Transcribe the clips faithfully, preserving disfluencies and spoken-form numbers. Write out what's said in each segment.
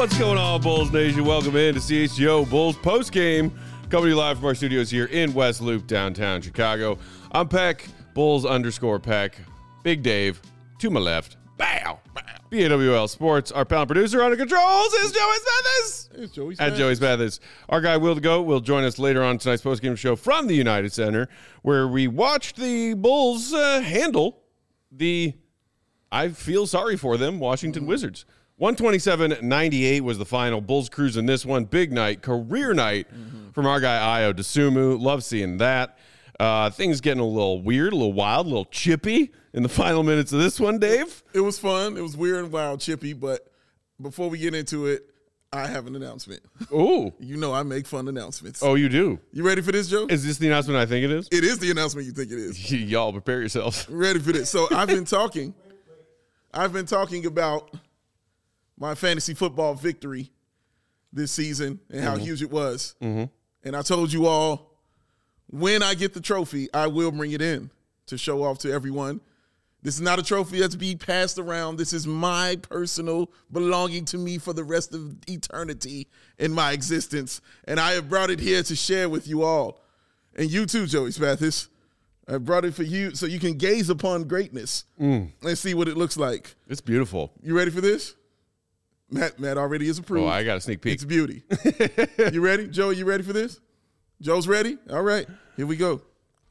What's going on, Bulls Nation? Welcome in to C H G O Bulls postgame. Coming to you live from our studios here in West Loop, downtown Chicago. I'm Peck, Bulls underscore Peck. Big Dave, to my left. Bow. B A W L Sports. Our panel producer under controls is Joey Mathis. It's Joey At Joey Mathis. Our guy, Will to Go, will join us later on tonight's postgame show from the United Center, where we watched the Bulls uh, handle the, I feel sorry for them, Washington mm-hmm. Wizards. one twenty-seven ninety-eight was the final. Bulls cruising this one. Big night, career night mm-hmm. from our guy, Ayo Dosunmu. Love seeing that. Uh, things getting a little weird, a little wild, a little chippy in the final minutes of this one, Dave. It was fun. It was weird and wild, chippy. But before we get into it, I have an announcement. Ooh. You know I make fun announcements. Oh, you do? You ready for this, Joe? Is this the announcement I think it is? It is the announcement you think it is. Y'all prepare yourselves. Ready for this. So I've been talking. I've been talking about my fantasy football victory this season and how mm-hmm. huge it was. Mm-hmm. And I told you all, when I get the trophy, I will bring it in to show off to everyone. This is not a trophy that's being passed around. This is my personal belonging to me for the rest of eternity in my existence. And I have brought it here to share with you all. And you too, Joey Mathis. I brought it for you so you can gaze upon greatness mm. and see what it looks like. It's beautiful. You ready for this? Matt, Matt already is approved. Oh, I got a sneak peek. It's beauty. You ready? Joey, you ready for this? Joe's ready? All right. Here we go.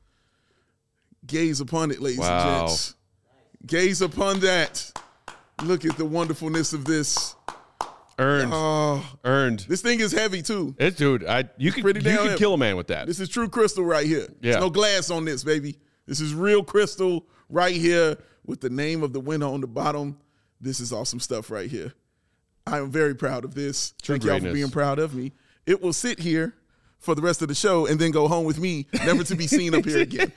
Gaze upon it, ladies wow. and gents. Gaze upon that. Look at the wonderfulness of this. Earned. Oh, Earned. This thing is heavy, too. It's, dude, I, you could, you could kill a man with that. This is true crystal right here. Yeah. There's no glass on this, baby. This is real crystal right here with the name of the winner on the bottom. This is awesome stuff right here. I am very proud of this. True Thank greatness. y'all for being proud of me. It will sit here for the rest of the show and then go home with me, never to be seen up here again.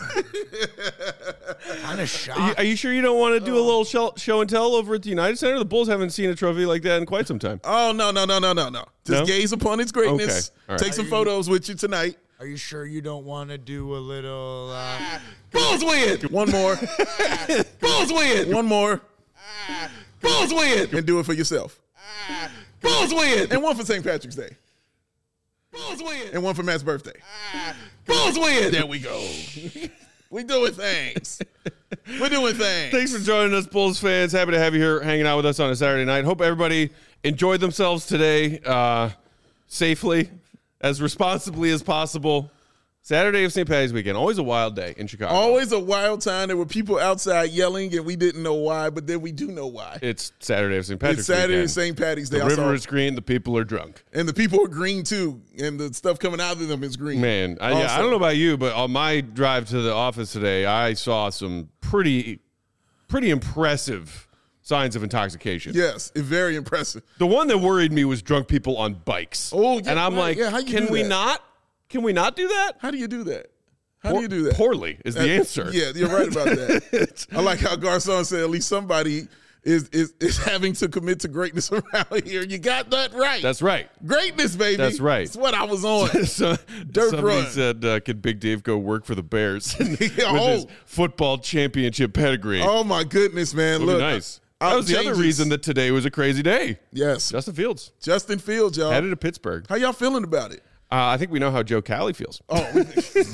Kind of shocked. Are you, are you sure you don't want to do a little show, show and tell over at the United Center? The Bulls haven't seen a trophy like that in quite some time. Oh, no, no, no, no, no, no. Just no? gaze upon its greatness. Okay. All right. Take some photos with you tonight. Are you sure you don't want to do a little... Uh... Bulls win! One more. Bulls win! One more. Bulls win! And do it for yourself. Bulls win! And one for Saint Patrick's Day. Bulls win! And one for Matt's birthday. Bulls win! There we go. We doing things. We're doing things. Thanks for joining us, Bulls fans. Happy to have you here hanging out with us on a Saturday night. Hope everybody enjoyed themselves today uh, safely, as responsibly as possible. Saturday of Saint Patty's weekend. Always a wild day in Chicago. Always a wild time. There were people outside yelling, and we didn't know why, but then we do know why. It's Saturday of Saint Patty's It's Saturday weekend. of Saint Patty's Day. The river is green. The people are drunk. And the people are green, too. And the stuff coming out of them is green. Man, I, yeah, I don't know about you, but on my drive to the office today, I saw some pretty, pretty impressive signs of intoxication. Yes, it's very impressive. The one that worried me was drunk people on bikes. Oh, yeah. And I'm right. like, yeah, how you can do we that? not? Can we not do that? How do you do that? How Poor, do you do that? Poorly is the uh, answer. Yeah, you're right about that. I like how Garcon said at least somebody is, is is having to commit to greatness around here. You got that right. That's right. Greatness, baby. That's right. That's what I was on. so, Dirt somebody run. said, uh, could Big Dave go work for the Bears with oh. his football championship pedigree? Oh, my goodness, man. Look, Look, nice. I, That was the other reason that today was a crazy day. Yes. Justin Fields. Justin Fields, y'all. Headed to Pittsburgh. How y'all feeling about it? Uh, I think we know how Joe Cali feels. Oh,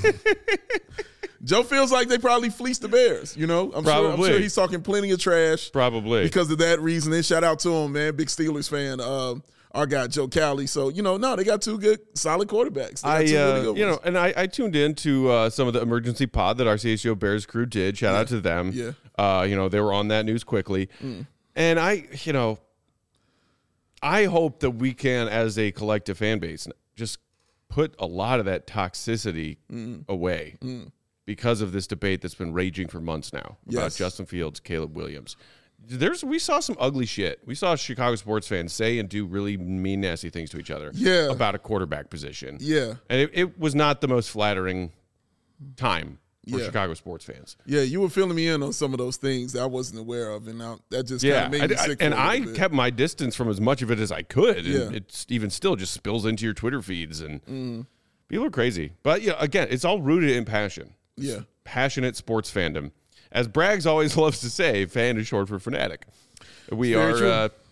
Joe feels like they probably fleeced the Bears. You know, I'm Probably. sure. I'm sure he's talking plenty of trash. Probably because of that reason. And shout out to him, man. Big Steelers fan. Um, our guy Joe Cali. So you know, no, they got two good, solid quarterbacks. They got I, two really uh, good you ones. know, and I, I tuned in to uh, some of the emergency pod that our C H G O Bears crew did. Shout yeah. out to them. Yeah. Uh, you know, they were on that news quickly, mm. and I, you know, I hope that we can, as a collective fan base, just put a lot of that toxicity mm. away mm. because of this debate that's been raging for months now about yes. Justin Fields, Caleb Williams. There's we saw some ugly shit. We saw Chicago sports fans say and do really mean, nasty things to each other yeah. about a quarterback position. Yeah. And it, it was not the most flattering time for yeah. Chicago sports fans. Yeah, you were filling me in on some of those things that I wasn't aware of, and I, that just yeah, kind of made me I, sick. I, and for a I bit. kept my distance from as much of it as I could, and Yeah. it's even still just spills into your Twitter feeds, and mm. people are crazy. But yeah, again, it's all rooted in passion. Yeah, it's passionate sports fandom. As Braggs always loves to say, fan is short for fanatic. We Very are true. uh,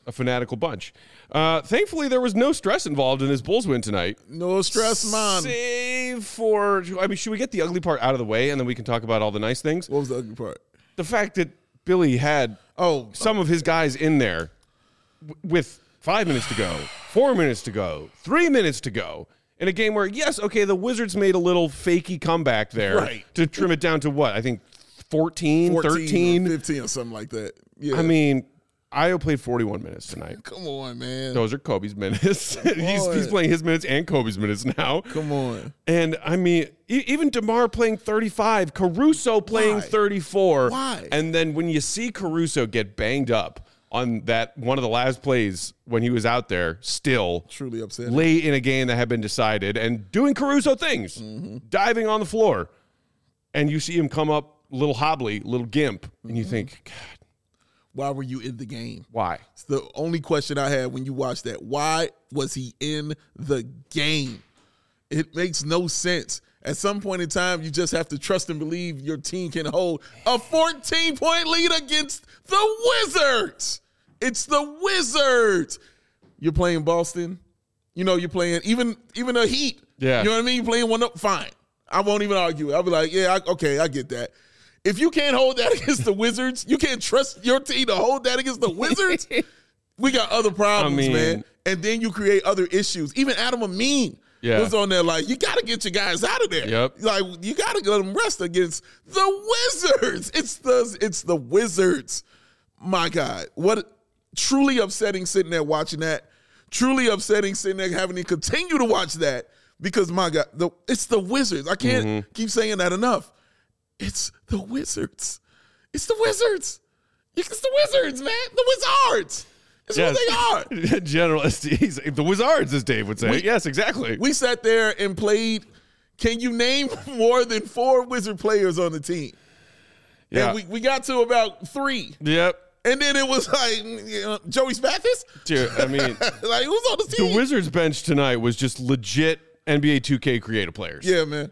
a fanatical bunch. Uh, thankfully, there was no stress involved in this Bulls win tonight. No stress, man. Save for, I mean, should we get the ugly part out of the way and then we can talk about all the nice things? What was the ugly part? The fact that Billy had Oh, some of his guys in there w- with five minutes to go, four minutes to go, three minutes to go. In a game where, yes, okay, the Wizards made a little fakey comeback there Right. to trim it down to what? I think fourteen, fourteen, thirteen. or fifteen, or something like that. Yeah. I mean, Io played forty-one minutes tonight. come on, man. Those are Kobe's minutes. he's, on. he's playing his minutes and Kobe's minutes now. Come on. And, I mean, e- even DeMar playing thirty-five, Caruso playing Why? thirty-four. Why? And then when you see Caruso get banged up on that one of the last plays when he was out there still Truly upsetting. late in a game that had been decided and doing Caruso things, Mm-hmm. diving on the floor, and you see him come up a little hobbly, little gimp, and Mm-hmm. you think, God, Why were you in the game? why? It's the only question I had when you watched that. Why was he in the game? It makes no sense. At some point in time, you just have to trust and believe your team can hold a fourteen-point lead against the Wizards. It's the Wizards. You're playing Boston. You know, you're playing even even a Heat. Yeah. You know what I mean? You're playing one up. Fine. I won't even argue it. I'll be like, yeah, I, okay, I get that. If you can't hold that against the Wizards, you can't trust your team to hold that against the Wizards. We got other problems, I mean- man. And then you create other issues. Even Adam Amin Yeah. was on there like, you got to get your guys out of there. Yep. Like, you got to let them rest against the Wizards. It's the it's the Wizards. My God, what truly upsetting sitting there watching that. Truly upsetting sitting there having to continue to watch that because my God, the, it's the Wizards. I can't Mm-hmm. keep saying that enough. It's the Wizards. It's the Wizards. It's the Wizards, man. The Wizards. It's what they are. General, he's, the Wizards, as Dave would say. We- yes, exactly. We sat there and played. Can you name more than four Wizard players on the team? yeah. And we, we got to about three. yep. And then it was like, you know, Joey Spathis? Dude, I mean, Like, who's on the team? the Wizards bench tonight was just legit N B A two K creative players. Yeah, man.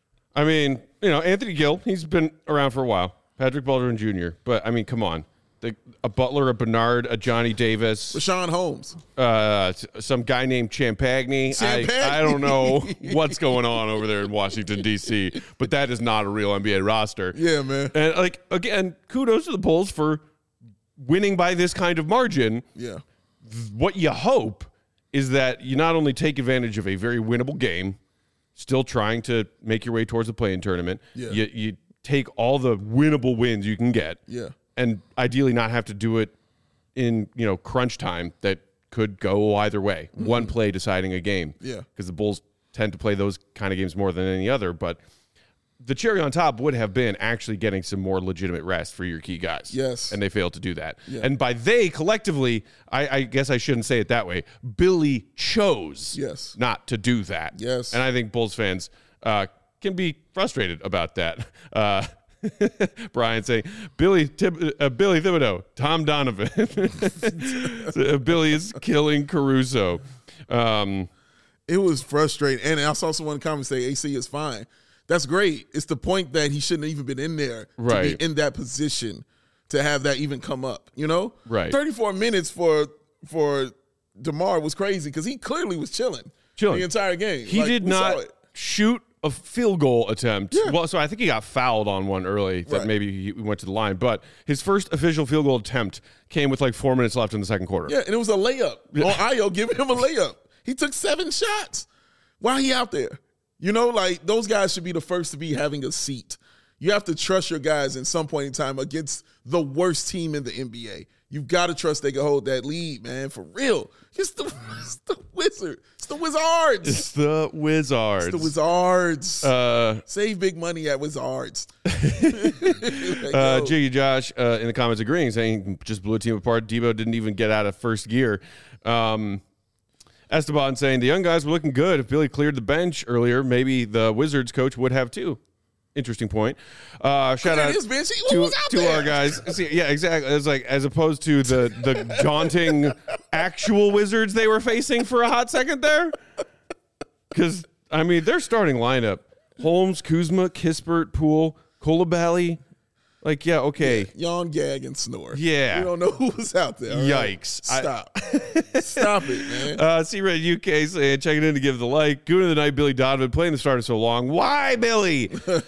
I mean, you know, Anthony Gill, he's been around for a while. Patrick Baldwin Junior But, I mean, come on. The, a Butler, a Bernard, a Johnny Davis, Rashawn Holmes. uh, s- some guy named Champagny. Champagny. I, I don't know what's going on over there in Washington, D C, but that is not a real N B A roster. Yeah, man. And, like, again, kudos to the Bulls for winning by this kind of margin. Yeah. What you hope is that you not only take advantage of a very winnable game, still trying to make your way towards the play-in tournament, Yeah. you, you take all the winnable wins you can get, Yeah. and ideally not have to do it in, you know, crunch time that could go either way. One play deciding a game. Yeah. Because the Bulls tend to play those kind of games more than any other, but the cherry on top would have been actually getting some more legitimate rest for your key guys. Yes. And they failed to do that. Yeah. And by they, collectively, I, I guess I shouldn't say it that way, Billy chose Yes. not to do that. Yes. And I think Bulls fans uh, can be frustrated about that. Uh, Brian saying, Billy Thib- uh, Billy Thibodeau, Tom Donovan. So, Billy is killing Caruso. Um, It was frustrating. And I saw someone comment say A C is fine. That's great. It's the point that he shouldn't have even been in there Right. to be in that position to have that even come up, you know? Right. thirty-four minutes for for DeMar was crazy because he clearly was chilling, Chilling. the entire game. He Like, did we saw not it. shoot a field goal attempt. Yeah. Well, so I think he got fouled on one early that Right. maybe he went to the line. But his first official field goal attempt came with like four minutes left in the second quarter. Yeah, and it was a layup on Io giving him a layup. He took seven shots. Why he out there? You know, like those guys should be the first to be having a seat. You have to trust your guys in some point in time against the worst team in the N B A. You've got to trust they can hold that lead, man, for real. It's the, it's the Wizard. It's the Wizards. It's the Wizards. It's the Wizards. Uh, Save big money at Wizards. uh, Jiggy Josh uh, in the comments agreeing, saying just blew a team apart. Debo didn't even get out of first gear. Um, Esteban saying the young guys were looking good. If Billy cleared the bench earlier, maybe the Wizards coach would have too. Interesting point. Uh, shout Cleared out his bench. Who to, was out to there? our guys. See, yeah, exactly. It's like as opposed to the the daunting actual Wizards they were facing for a hot second there. Because I mean, their starting lineup: Holmes, Kuzma, Kispert, Poole, Coulibaly, Like, yeah, okay. Yawn, gag, and snore. Yeah. We don't know who was out there. All right? Yikes. Stop. Stop it, man. Uh, C-Red U K saying, checking in to give the like. Goon of the night, Billy Donovan, playing the starter so long. Why, Billy?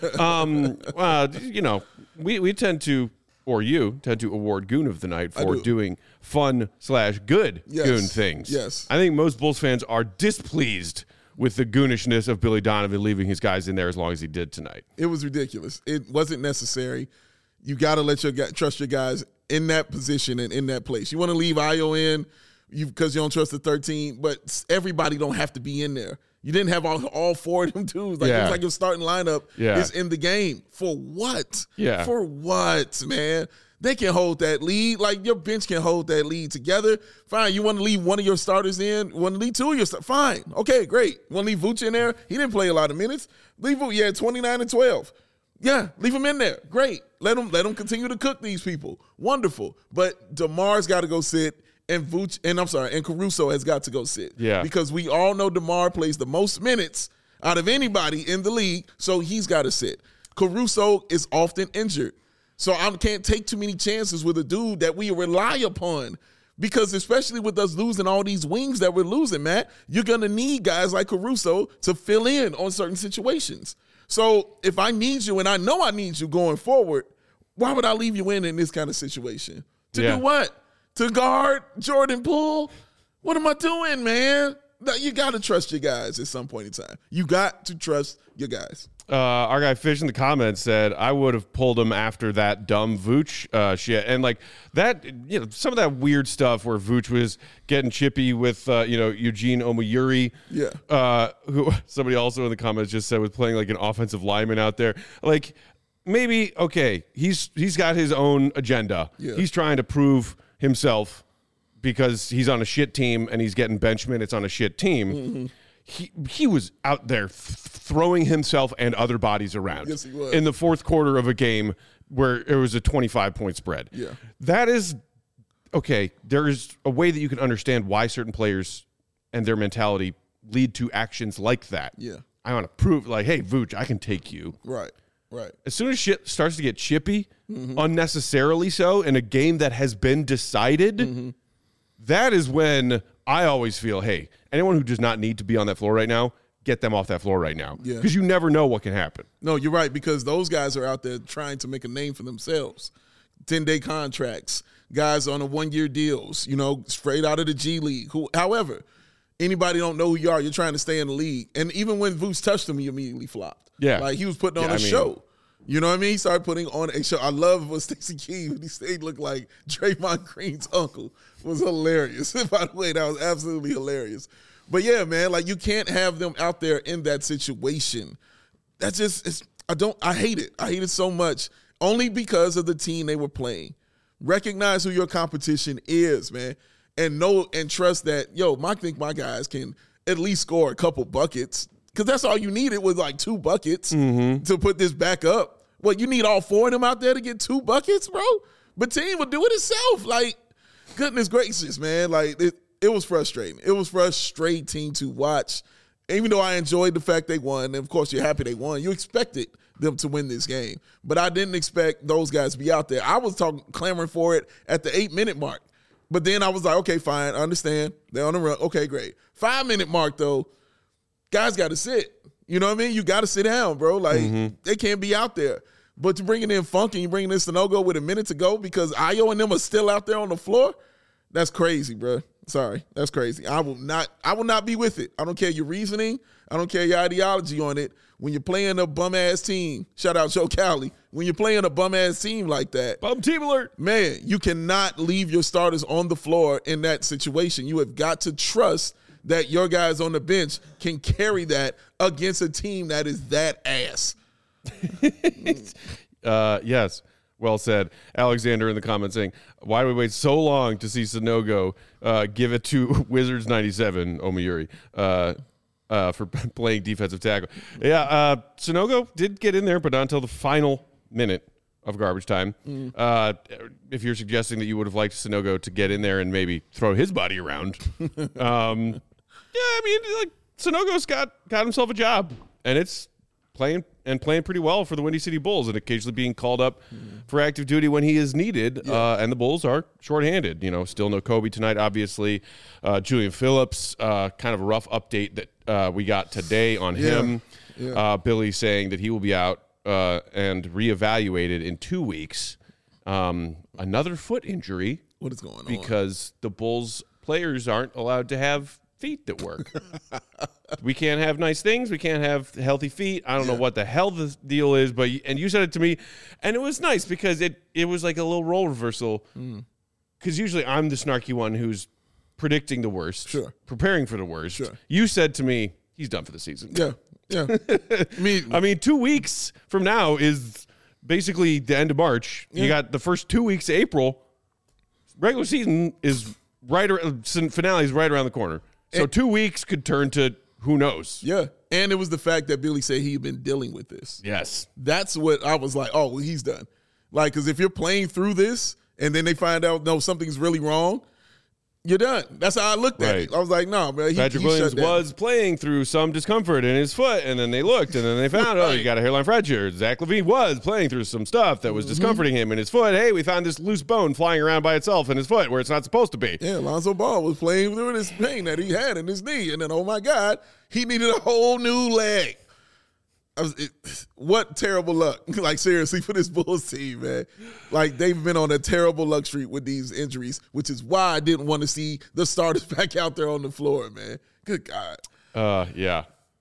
um, uh, you know, we, we tend to, or you tend to award Goon of the night for do. doing fun slash good Yes. Goon things. Yes. I think most Bulls fans are displeased with the goonishness of Billy Donovan leaving his guys in there as long as he did tonight. It was ridiculous. It wasn't necessary. You got to let your guy, trust your guys in that position and in that place. You want to leave Ayo in you because you don't trust the thirteen, but everybody don't have to be in there. You didn't have all, all four of them dudes. Like, Yeah. It was like your starting lineup Yeah. is in the game. For what? Yeah. For what, man? They can hold that lead. Like, your bench can hold that lead together. Fine. You want to leave one of your starters in? You want to leave two of your starters? Fine. Okay, great. You want to leave Vooch in there? He didn't play a lot of minutes. Leave Vooch. Yeah, twenty-nine and twelve. Yeah, leave him in there. Great. Let him let him continue to cook these people. Wonderful. But DeMar's got to go sit, and Vooch, and I'm sorry, and Caruso has got to go sit. Yeah. Because we all know DeMar plays the most minutes out of anybody in the league, so he's got to sit. Caruso is often injured. So I can't take too many chances with a dude that we rely upon. Because especially with us losing all these wings that we're losing, Matt, you're going to need guys like Caruso to fill in on certain situations. So if I need you, and I know I need you going forward, why would I leave you in in this kind of situation? To Yeah. do what? To guard Jordan Poole? What am I doing, man? No, you got to trust your guys at some point in time. You got to trust your guys. Uh, our guy Fish in the comments said, I would have pulled him after that dumb Vooch uh, shit. And like that, you know, some of that weird stuff where Vooch was getting chippy with, uh, you know, Eugene Omoyuri. Yeah. Uh, who somebody also in the comments just said was playing like an offensive lineman out there. Like maybe, okay, he's he's got his own agenda. Yeah. He's trying to prove himself because he's on a shit team and he's getting bench minutes on a shit team. Mm-hmm. He he was out there th- throwing himself and other bodies around. Yes, he was. In the fourth quarter of a game where it was a twenty-five point spread. Yeah. That is, okay, there is a way that you can understand why certain players and their mentality lead to actions like that. Yeah. I want to prove, like, hey, Vooch, I can take you. Right, right. As soon as shit starts to get chippy, Mm-hmm. unnecessarily so, in a game that has been decided, Mm-hmm. that is when I always feel, hey, anyone who does not need to be on that floor right now, get them off that floor right now. Yeah. Because you never know what can happen. No, you're right, because those guys are out there trying to make a name for themselves. ten-day contracts, guys on a one-year deals, you know, straight out of the G League. Who, however, anybody don't know who you are. You're trying to stay in the league. And even when Vooch touched him, he immediately flopped. Yeah. Like, he was putting on Yeah, a I mean- show. You know what I mean? He started putting on a show. I love what Stacey Key, when he stayed, looked like Draymond Green's uncle. Was hilarious. By the way, that was absolutely hilarious. But yeah, man, like, you can't have them out there in that situation. That's just, it's, I don't, I hate it. I hate it so much. Only because of the team they were playing. Recognize who your competition is, man. And know and trust that, yo, I think my guys can at least score a couple buckets. Because that's all you needed was like two buckets Mm-hmm. to put this back up. What, you need all four of them out there to get two buckets, bro? But team would do it itself. Like, goodness gracious, man. Like, it, it was frustrating. It was frustrating to watch. Even though I enjoyed the fact they won, and of course you're happy they won, you expected them to win this game. But I didn't expect those guys to be out there. I was talking, clamoring for it at the eight-minute mark. But then I was like, okay, fine, I understand. They're on the run. Okay, great. Five-minute mark, though, guys got to sit. You know what I mean? You got to sit down, bro. Like, Mm-hmm. they can't be out there. But you're bringing in Funk and you're bringing in Sanogo with a minute to go because Ayo and them are still out there on the floor. That's crazy, bro. Sorry, that's crazy. I will not. I will not be with it. I don't care your reasoning. I don't care your ideology on it. When you're playing a bum ass team, shout out Joe Cowley. When you're playing a bum ass team like that, Bum team alert. man, you cannot leave your starters on the floor in that situation. You have got to trust that your guys on the bench can carry that against a team that is that ass. Uh, yes, well said. Alexander in the comments saying, why do we wait so long to see Sanogo uh, give it to Wizards ninety-seven, Omoyuri, uh, uh, for playing defensive tackle? Yeah, uh, Sanogo did get in there, but not until the final minute of garbage time. Mm. Uh, if you're suggesting that you would have liked Sanogo to get in there and maybe throw his body around. um, yeah, I mean, like, Sanogo's got, got himself a job, and it's playing and playing pretty well for the Windy City Bulls and occasionally being called up mm-hmm. for active duty when he is needed. Yeah. Uh, and the Bulls are shorthanded. You know, still no Kobe tonight, obviously. Uh, Julian Phillips, uh, kind of a rough update that uh, we got today on yeah. him. Yeah. Uh, Billy saying that he will be out uh, and reevaluated in two weeks. Um, another foot injury. What is going on? Because the Bulls players aren't allowed to have feet that work. We can't have nice things. We can't have healthy feet. I don't yeah. know what the hell the deal is, but and you said it to me, and it was nice because it it was like a little role reversal. Because mm. usually I'm the snarky one who's predicting the worst, sure, preparing for the worst. Sure. You said to me, he's done for the season. Yeah, yeah. I mean, I mean, two weeks from now is basically the end of March. Yeah. You got the first two weeks of April. Regular season is right around, finale is right around the corner. So and, two weeks could turn to who knows. Yeah. And it was the fact that Billy said he'd been dealing with this. Yes. That's what I was like, oh, well, he's done. Like, because if you're playing through this and then they find out, no, something's really wrong, you're done. That's how I looked at right. it. I was like, no, man. He, Patrick he Williams shut down. was playing through some discomfort in his foot, and then they looked, and then they found, right. oh, you got a hairline fracture. Zach LaVine was playing through some stuff that was mm-hmm. discomforting him in his foot. Hey, we found this loose bone flying around by itself in his foot where it's not supposed to be. Yeah, Lonzo Ball was playing through this pain that he had in his knee, and then, oh, my God, he needed a whole new leg. I was, it, what terrible luck. Like, seriously, for this Bulls team, man. Like, they've been on a terrible luck streak with these injuries, which is why I didn't want to see the starters back out there on the floor, man. Good God. Uh, yeah.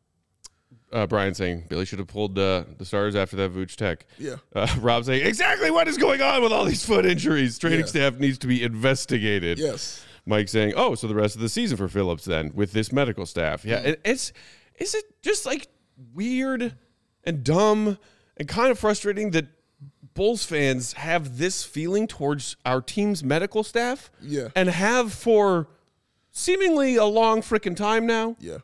Uh, Brian saying Billy should have pulled uh, the starters after that Vooch Tech. Yeah. Uh, Rob saying, exactly what is going on with all these foot injuries? Training yeah. staff needs to be investigated. Yes. Mike saying, oh, so the rest of the season for Phillips then with this medical staff. Yeah, mm. it's is it just like weird and dumb and kind of frustrating that Bulls fans have this feeling towards our team's medical staff? Yeah. And have for seemingly a long freaking time now? Yeah.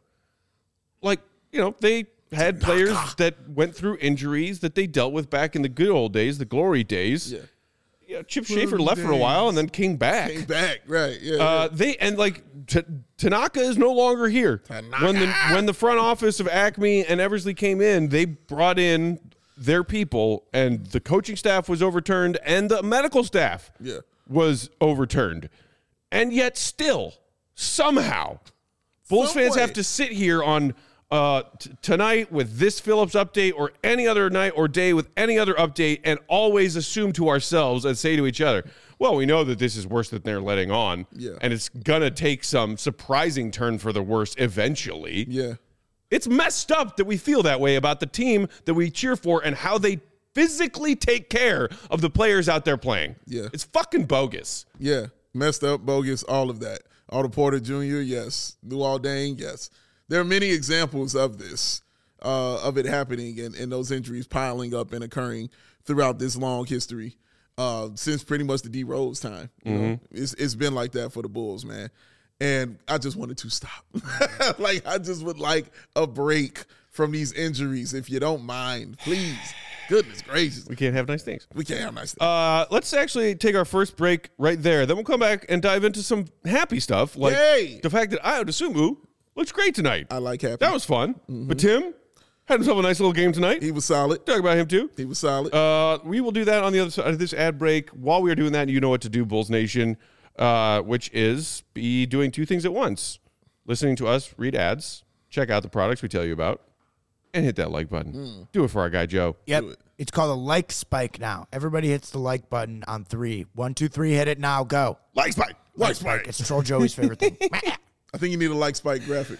Like, you know, they had players that went through injuries that they dealt with back in the good old days, the glory days. Yeah. Yeah, Chip Schaefer left days. for a while and then came back. Came back, right? Yeah. Uh, yeah. They and like T- Tanaka is no longer here. Tanaka. When the when the front office of Acme and Eversley came in, they brought in their people, and the coaching staff was overturned, and the medical staff yeah. was overturned, and yet still somehow, Bulls Some fans way. have to sit here on. Uh, t- tonight with this Phillips update or any other night or day with any other update and always assume to ourselves and say to each other, well, we know that this is worse than they're letting on. Yeah. And it's going to take some surprising turn for the worse eventually. Yeah. It's messed up that we feel that way about the team that we cheer for and how they physically take care of the players out there playing. Yeah. It's fucking bogus. Yeah. Messed up, bogus, all of that. Otto Porter Junior, yes. Luol Deng, yes. There are many examples of this, uh, of it happening and, and those injuries piling up and occurring throughout this long history uh, since pretty much the D Rose time. You mm-hmm. know, it's it's been like that for the Bulls, man. And I just wanted to stop. Like, I just would like a break from these injuries, if you don't mind, please. Goodness gracious. We can't have nice things. We can't have nice things. Uh, let's actually take our first break right there. Then we'll come back and dive into some happy stuff, like Yay! the fact that Ayo Dosunmu looks great tonight. I like happy. That was fun. Mm-hmm. But Tim had himself a nice little game tonight. He was solid. Talk about him too. He was solid. Uh, we will do that on the other side of this ad break. While we are doing that, you know what to do, Bulls Nation, uh, which is be doing two things at once. Listening to us read ads, check out the products we tell you about, and hit that like button. Mm. Do it for our guy, Joe. Yep. It. It's called a like spike now. Everybody hits the like button on three. One, two, three, hit it now, go. Like spike. Like, like spike. spike. It's Troll Joey's favorite thing. I think you need a like spike graphic.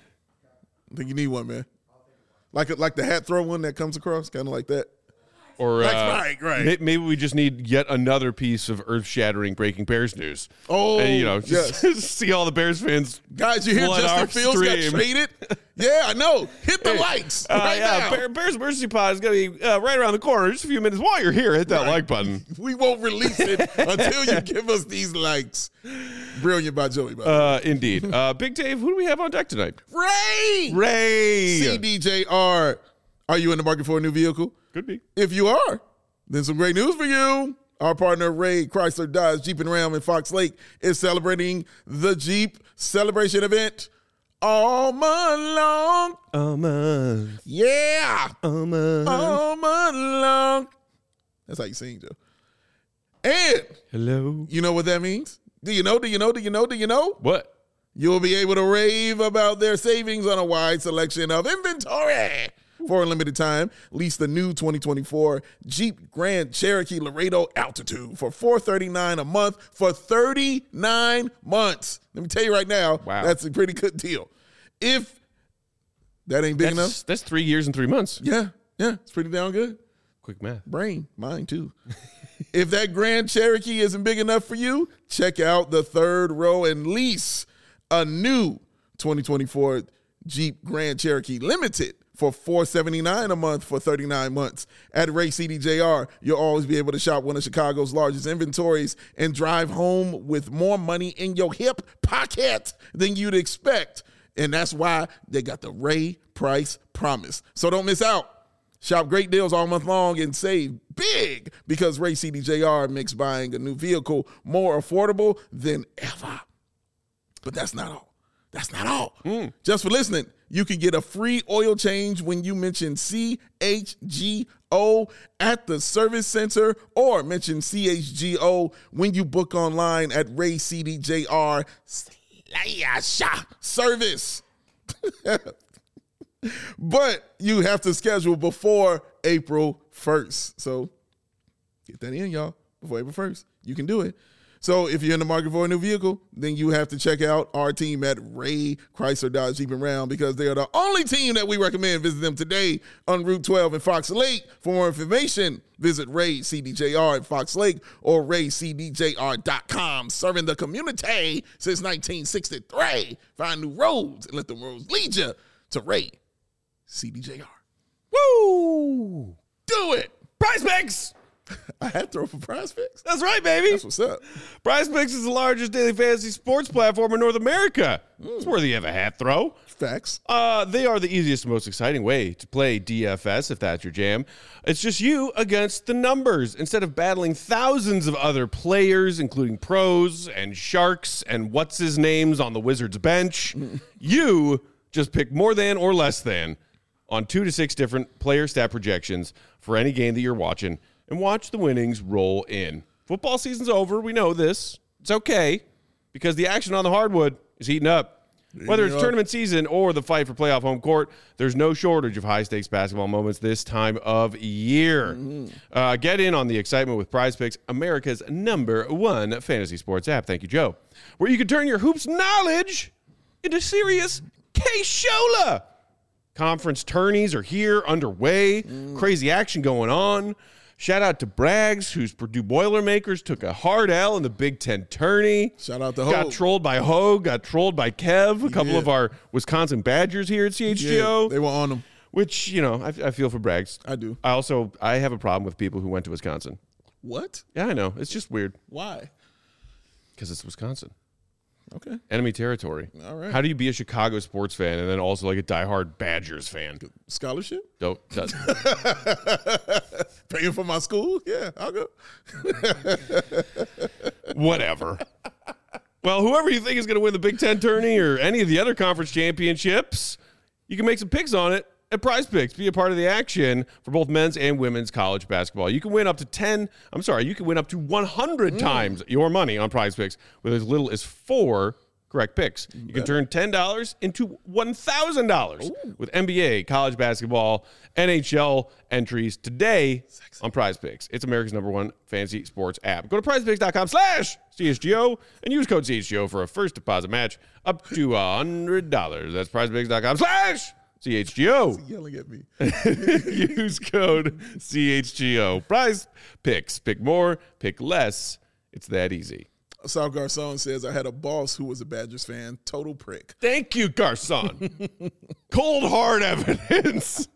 I think you need one, man. Like a, like the hat throw one that comes across, kind of like that. Or like uh, spike, right. Maybe we just need yet another piece of earth-shattering breaking Bears news. Oh, and, you know, just, yes. see all the Bears fans. Guys, you hear Justin Fields stream. got traded? Yeah, I know. Hit the hey, likes uh, right yeah, now. Bear, Bears Emergency Pod is going to be uh, right around the corner. Just a few minutes. While you're here, hit that right. like button. We won't release it until you give us these likes. Brilliant by Joey. By uh, indeed. Uh, Big Dave, who do we have on deck tonight? Ray! Ray! C D J R. Are you in the market for a new vehicle? Could be. If you are, then some great news for you. Our partner, Ray Chrysler Dodge Jeep and Ram in Fox Lake, is celebrating the Jeep Celebration event all month long. A month. Yeah. A month. All month long. That's how you sing, Joe. And Hello. you know what that means? Do you know? Do you know? Do you know? Do you know? What? You'll be able to rave about their savings on a wide selection of inventory. For a limited time, lease the new twenty twenty-four Jeep Grand Cherokee Laredo Altitude for four hundred thirty-nine dollars a month for thirty-nine months. Let me tell you right now, Wow. that's a pretty good deal. If that ain't big That's, enough, that's three years and three months. yeah, yeah, it's pretty down good. Quick math. Brain, mine too. If that Grand Cherokee isn't big enough for you, check out the third row and lease a new twenty twenty-four Jeep Grand Cherokee Limited for four hundred seventy-nine dollars a month for thirty-nine months. At Ray C D J R, you'll always be able to shop one of Chicago's largest inventories and drive home with more money in your hip pocket than you'd expect. And that's why they got the Ray Price Promise. So don't miss out. Shop great deals all month long and save big because Ray C D J R makes buying a new vehicle more affordable than ever. But that's not all. That's not all. Mm. Just for listening, you can get a free oil change when you mention C H G O at the service center or mention C H G O when you book online at Ray C D J R slash service. But you have to schedule before April first. So get that in, y'all, before April first. You can do it. So if you're in the market for a new vehicle, then you have to check out our team at Ray Chrysler Dodge Jeep and Ram because they are the only team that we recommend visit them today on Route twelve in Fox Lake. For more information, visit Ray C D J R at Fox Lake or ray c d j r dot com. Serving the community since nineteen sixty-three. Find new roads and let the roads lead you to Ray C D J R. Woo! Do it. Prize Picks! I had to throw for Prize Picks. That's right, baby. That's what's up. Prize Picks is the largest daily fantasy sports platform in North America. Mm. It's worthy of a hat throw. Facts. Uh, they are the easiest and most exciting way to play D F S, if that's your jam. It's just you against the numbers. Instead of battling thousands of other players, including pros and sharks and what's-his-names on the Wizards bench, you just pick more than or less than on two to six different player stat projections for any game that you're watching and watch the winnings roll in. Football season's over. We know this. It's okay because the action on the hardwood is heating up. Whether it's tournament season or the fight for playoff home court, there's no shortage of high-stakes basketball moments this time of year. Mm-hmm. Uh, get in on the excitement with Prize Picks, America's number one fantasy sports app. Thank you, Joe. Where you can turn your hoops knowledge into serious K-Shola. Conference tourneys are here, underway. Mm. Crazy action going on. Shout out to Braggs, whose Purdue Boilermakers took a hard L in the Big Ten tourney. Shout out to Got Hogue. trolled by Hogue, got trolled by Kev, a couple did. of our Wisconsin Badgers here at C H G O. Yeah, they were on them. Which, you know, I, I feel for Braggs. I do. I also, I have a problem with people who went to Wisconsin. What? Yeah, I know. It's just weird. Why? Because it's Wisconsin. Okay. Enemy territory. All right. How do you be a Chicago sports fan and then also like a diehard Badgers fan? Scholarship? Don't. Does. Paying for my school? Yeah, I'll go. Whatever. Well, whoever you think is going to win the Big Ten tourney or any of the other conference championships, you can make some picks on it at Prize Picks. Be a part of the action for both men's and women's college basketball. You can win up to ten, I'm sorry, you can win up to one hundred mm. times your money on Prize Picks with as little as four correct picks. You can turn ten dollars into one thousand dollars with N B A, college basketball, N H L entries today Sexy. On Prize Picks. It's America's number one fantasy sports app. Go to prizepicks.com slash CHGO and use code C H G O for a first deposit match up to one hundred dollars. That's prizepicks.com slash C H G O. Yelling at me. Use code C H G O. Prize Picks. Pick more, pick less. It's that easy. Sal Garcon says, I had a boss who was a Badgers fan. Total prick. Thank you, Garcon. Cold, hard evidence.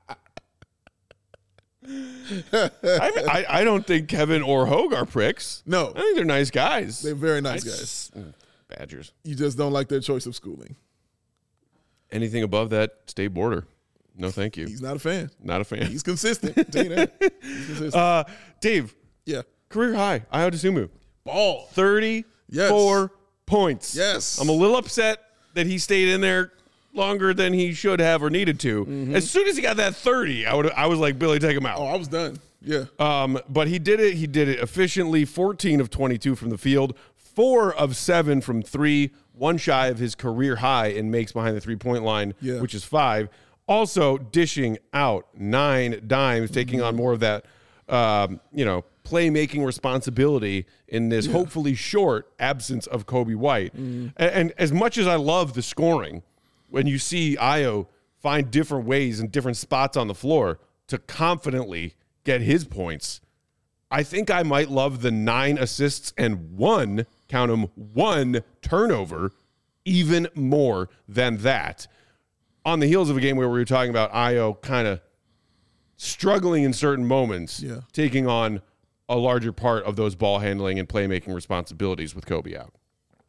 I, mean, I, I don't think Kevin or Hogue are pricks. No. I think they're nice guys. They're very nice I guys. Just, Badgers. You just don't like their choice of schooling. Anything above that state border. No, thank you. He's not a fan. Not a fan. He's consistent. I'll tell you that. He's consistent. Uh, Dave. Yeah. Career high. Ayo Dosunmu. Ball. thirty-four Yes. points. Yes. I'm a little upset that he stayed in there longer than he should have or needed to. Mm-hmm. As soon as he got that thirty, I would I was like, Billy, take him out. Oh, I was done. Yeah. Um, but he did it. He did it efficiently. fourteen of twenty-two from the field, four of seven from three, one shy of his career high in makes behind the three-point line, yeah. which is five. Also dishing out nine dimes, taking on more of that, um, you know, playmaking responsibility in this yeah. hopefully short absence of Kobe White. Mm. And, and as much as I love the scoring, when you see Ayo find different ways and different spots on the floor to confidently get his points, I think I might love the nine assists and one, count them, one turnover even more than that. On the heels of a game where we were talking about Ayo kind of struggling in certain moments, yeah. taking on a larger part of those ball handling and playmaking responsibilities with Kobe out.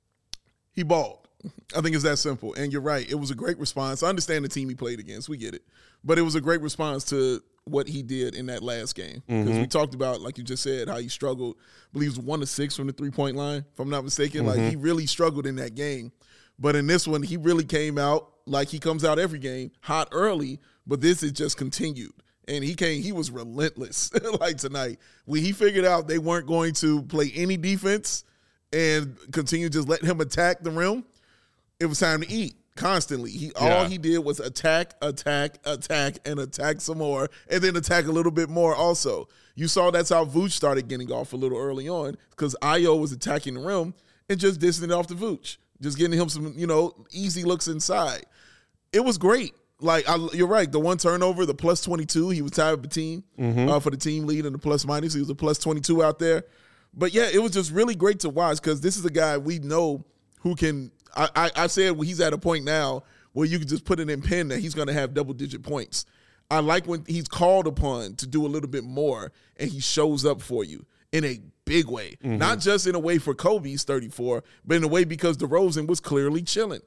He balled. I think it's that simple. And you're right. It was a great response. I understand the team he played against. We get it. But it was a great response to what he did in that last game. Because mm-hmm. we talked about, like you just said, how he struggled. I believe it was one to six from the three-point line, if I'm not mistaken. Mm-hmm. Like, he really struggled in that game. But in this one, he really came out like he comes out every game, hot early, but this is just continued. And he came, he was relentless like tonight. When he figured out they weren't going to play any defense and continue just letting him attack the rim, it was time to eat constantly. He yeah. all he did was attack, attack, attack, and attack some more, and then attack a little bit more also. You saw that's how Vooch started getting off a little early on, because Ayo was attacking the rim and just dissing it off the Vooch, just getting him some, you know, easy looks inside. It was great. Like, I, you're right, the one turnover, the plus twenty-two, he was tied with the team mm-hmm. uh, for the team lead and the plus minus. He was a plus twenty-two out there. But, yeah, it was just really great to watch, because this is a guy we know who can – I, I said well, he's at a point now where you can just put it in pen that he's going to have double-digit points. I like when he's called upon to do a little bit more, and he shows up for you in a big way. Mm-hmm. Not just in a way for Kobe's thirty-four, but in a way because DeRozan was clearly chilling.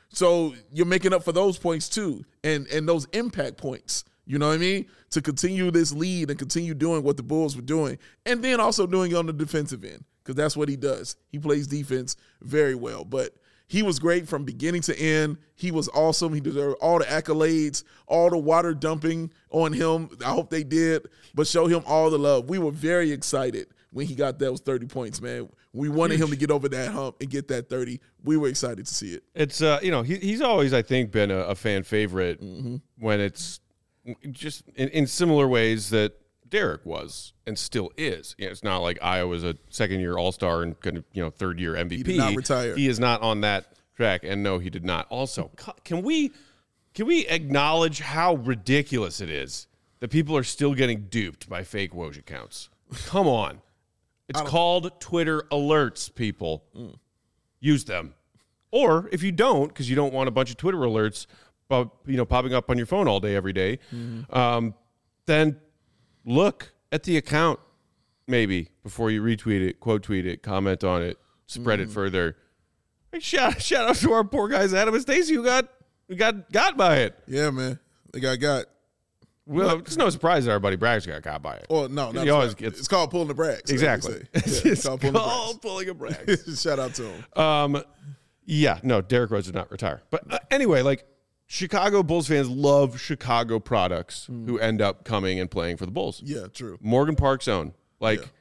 So you're making up for those points too, and and those impact points, you know what I mean, to continue this lead and continue doing what the Bulls were doing, and then also doing it on the defensive end, because that's what he does. He plays defense very well, but he was great from beginning to end. He was awesome. He deserved all the accolades, all the water dumping on him. I hope they did, but show him all the love. We were very excited when he got those thirty points, man. We wanted him to get over that hump and get that thirty. We were excited to see it. It's, uh, you know, he, he's always, I think, been a, a fan favorite mm-hmm. when it's just in, in similar ways that Derek was and still is. You know, it's not like Ayo was a second-year All-Star and kind of, you know, third-year M V P. He did not retire. He is not on that track, and no, he did not. Also, can we can we acknowledge how ridiculous it is that people are still getting duped by fake Woj accounts? Come on. It's called Twitter alerts, people. Mm. Use them. Or if you don't, because you don't want a bunch of Twitter alerts uh, you know, popping up on your phone all day, every day, mm. um, then look at the account maybe before you retweet it, quote tweet it, comment on it, spread mm. it further. Hey, shout, shout out to our poor guys, Adam and Stacey, who got, who got got by it. Yeah, man. They got got. Well, it's no surprise that our buddy Braggs got got by it. Well, no, not always gets, it's called pulling the Braggs. Exactly. Yeah, it's, it's called pulling, called pulling a Braggs. Shout out to him. Um, yeah, no, Derrick Rose did not retire. But uh, anyway, like, Chicago Bulls fans love Chicago products mm. who end up coming and playing for the Bulls. Yeah, true. Morgan Park's own. Like, yeah.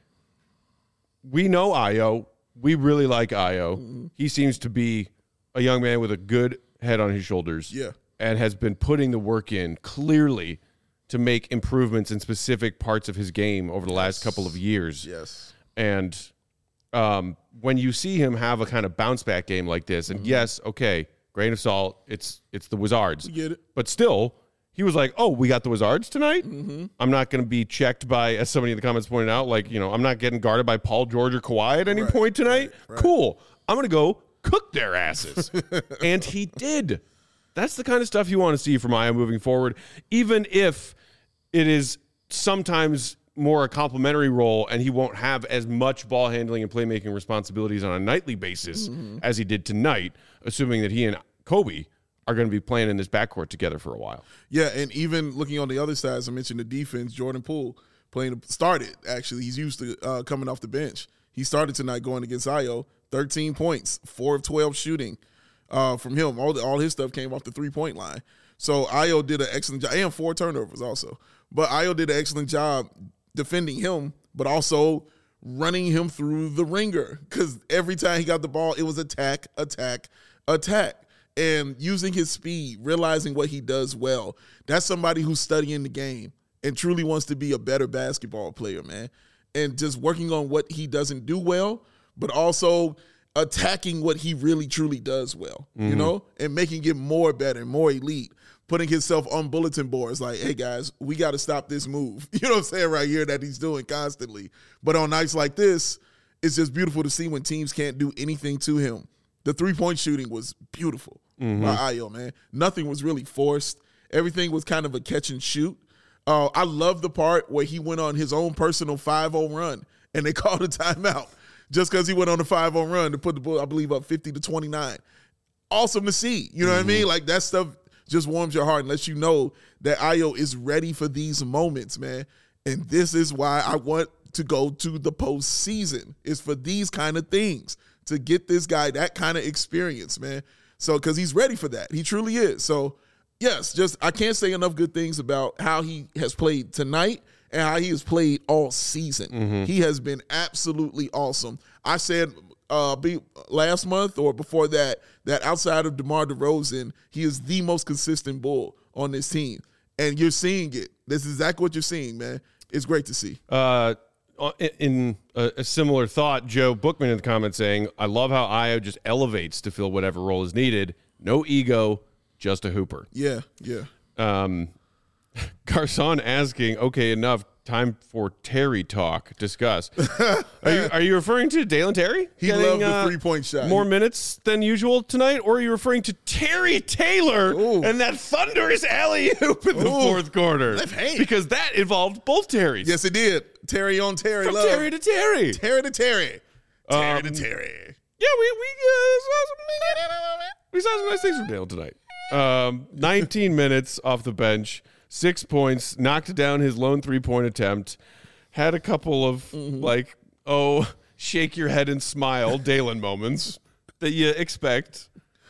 we know Ayo. We really like Ayo. Mm-hmm. He seems to be a young man with a good head on his shoulders. Yeah. And has been putting the work in clearly to make improvements in specific parts of his game over the yes. last couple of years. Yes. And um, when you see him have a kind of bounce back game like this, and mm-hmm. yes, okay, grain of salt, it's it's the Wizards. We get it. But still, he was like, oh, we got the Wizards tonight? Mm-hmm. I'm not going to be checked by, as somebody in the comments pointed out, like, you know, I'm not getting guarded by Paul George or Kawhi at any right, point tonight. Right, right. Cool. I'm going to go cook their asses. And he did. That's the kind of stuff you want to see from Ayo moving forward, even if it is sometimes more a complimentary role and he won't have as much ball handling and playmaking responsibilities on a nightly basis mm-hmm. as he did tonight, assuming that he and Kobe are going to be playing in this backcourt together for a while. Yeah, and even looking on the other side, as I mentioned, the defense, Jordan Poole playing started, actually. He's used to uh, coming off the bench. He started tonight going against Ayo, thirteen points, four of twelve shooting. uh, from him. All, the, all his stuff came off the three-point line. So Ayo did an excellent job, and four turnovers also. But Ayo did an excellent job defending him, but also running him through the ringer, because every time he got the ball, it was attack, attack, attack. And using his speed, realizing what he does well. That's somebody who's studying the game and truly wants to be a better basketball player, man. And just working on what he doesn't do well, but also attacking what he really, truly does well, mm-hmm. you know, and making it more better, more elite, putting himself on bulletin boards like, hey, guys, we got to stop this move. You know what I'm saying, right here that he's doing constantly. But on nights like this, it's just beautiful to see when teams can't do anything to him. The three-point shooting was beautiful mm-hmm. by Ayo, man. Nothing was really forced. Everything was kind of a catch and shoot. Uh, I love the part where he went on his own personal five oh run, and they called a timeout just because he went on a five oh run to put the Bulls, I believe, up fifty to twenty-nine. Awesome to see. You know mm-hmm. what I mean? Like, that stuff just warms your heart and lets you know that Ayo is ready for these moments, man. And this is why I want to go to the postseason, is for these kind of things, to get this guy that kind of experience, man. So, because he's ready for that. He truly is. So, yes, just I can't say enough good things about how he has played tonight and how he has played all season. Mm-hmm. He has been absolutely awesome. I said uh, be, last month or before that, that outside of DeMar DeRozan, he is the most consistent Bull on this team. And you're seeing it. This is exactly what you're seeing, man. It's great to see. Uh In a, a similar thought, Joe Bookman in the comments saying, I love how Ayo just elevates to fill whatever role is needed. No ego, just a hooper. Yeah, yeah. Um, Garcon asking, okay, enough. Time for Terry talk. Discuss. are you are you referring to Dalen Terry? He getting, loved the uh, three-point shot. More minutes than usual tonight? Or are you referring to Terry Taylor Ooh. and that thunderous alley-oop in the Ooh. fourth quarter? Left hand. Because that involved both Terrys. Yes, it did. Terry on Terry. From love. Terry to Terry. Terry to Terry. Terry Um, to Terry. Yeah, we we uh, saw some we saw some nice things from Dale tonight. Um, nineteen minutes off the bench, six points, knocked down his lone three-point attempt, had a couple of mm-hmm. like, oh, shake your head and smile Dalen moments that you expect.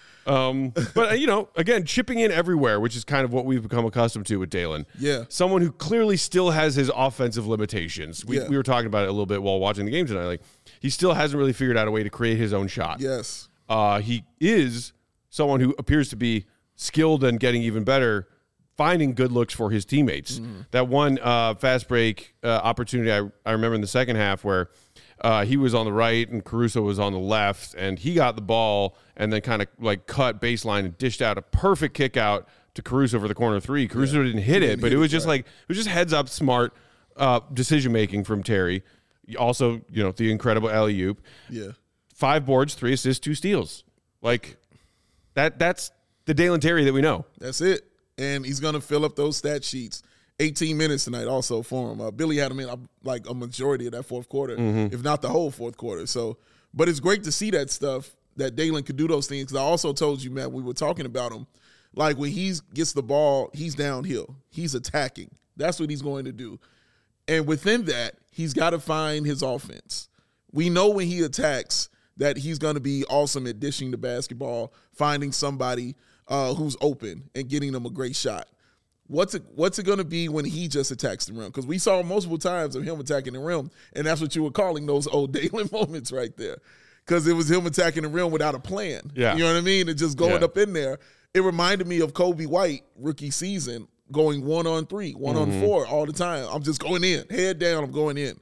Um, but you know, again, chipping in everywhere, which is kind of what we've become accustomed to with Dalen. Yeah, someone who clearly still has his offensive limitations. We yeah. we were talking about it a little bit while watching the game tonight. Like, he still hasn't really figured out a way to create his own shot. Yes, uh, he is someone who appears to be skilled and getting even better, finding good looks for his teammates. Mm-hmm. That one uh, fast break uh, opportunity I I remember in the second half where. Uh, he was on the right and Caruso was on the left, and he got the ball and then kind of like cut baseline and dished out a perfect kick out to Caruso for the corner three. Caruso yeah. didn't hit he it, didn't but hit it was it, just right. like it was just heads up, smart uh, decision making from Terry. Also, you know, the incredible alley-oop. Yeah, five boards, three assists, two steals. Like that. That's the Dalen Terry that we know. That's it, and he's gonna fill up those stat sheets. eighteen minutes tonight also for him. Uh, Billy had him in uh, like a majority of that fourth quarter, mm-hmm. if not the whole fourth quarter. So, but it's great to see that stuff, that Dalen could do those things. Because I also told you, man, we were talking about him. Like when he gets the ball, he's downhill. He's attacking. That's what he's going to do. And within that, he's got to find his offense. We know when he attacks that he's going to be awesome at dishing the basketball, finding somebody uh, who's open and getting them a great shot. What's it What's it going to be when he just attacks the rim? Because we saw multiple times of him attacking the rim, and that's what you were calling those old Dalen moments right there. Because it was him attacking the rim without a plan. Yeah. You know what I mean? And just going yeah. up in there. It reminded me of Kobe White, rookie season, going one on three, one mm-hmm. on four all the time. I'm just going in. Head down, I'm going in.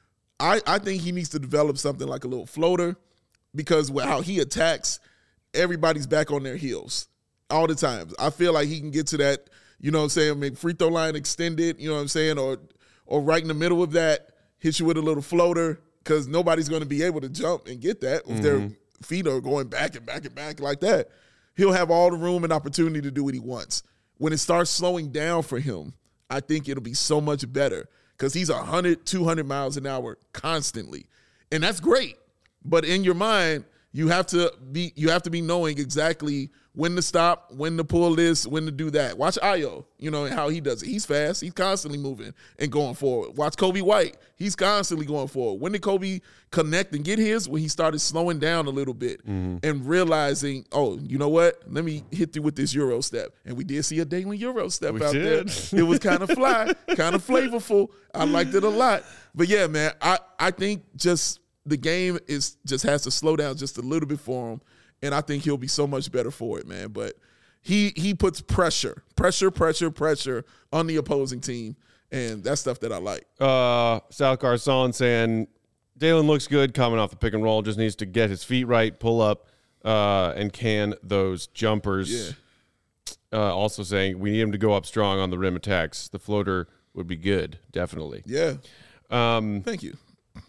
I, I think he needs to develop something like a little floater, because with how he attacks, everybody's back on their heels all the time. I feel like he can get to that, you know what I'm saying, maybe free throw line extended, you know what I'm saying, or or right in the middle of that, hit you with a little floater, because nobody's going to be able to jump and get that if mm-hmm. their feet are going back and back and back like that. He'll have all the room and opportunity to do what he wants. When it starts slowing down for him, I think it'll be so much better, because he's one hundred, two hundred miles an hour constantly. And that's great. But in your mind, you have to be you have to be knowing exactly when to stop, when to pull this, when to do that. Watch Ayo, you know, and how he does it. He's fast. He's constantly moving and going forward. Watch Kobe White. He's constantly going forward. When did Kobe connect and get his? When he started slowing down a little bit mm-hmm. and realizing, oh, you know what? Let me hit you with this Euro step. And we did see a Dalen Euro step we out did. there. It was kind of fly, kind of flavorful. I liked it a lot. But yeah, man, I, I think just the game is just has to slow down just a little bit for him. And I think he'll be so much better for it, man. But he he puts pressure, pressure, pressure, pressure on the opposing team. And that's stuff that I like. Uh, Sal Carson saying, Dalen looks good coming off the pick and roll. Just needs to get his feet right, pull up, uh, and can those jumpers. Yeah. Uh, also saying, we need him to go up strong on the rim attacks. The floater would be good, definitely. Yeah. Um, Thank you.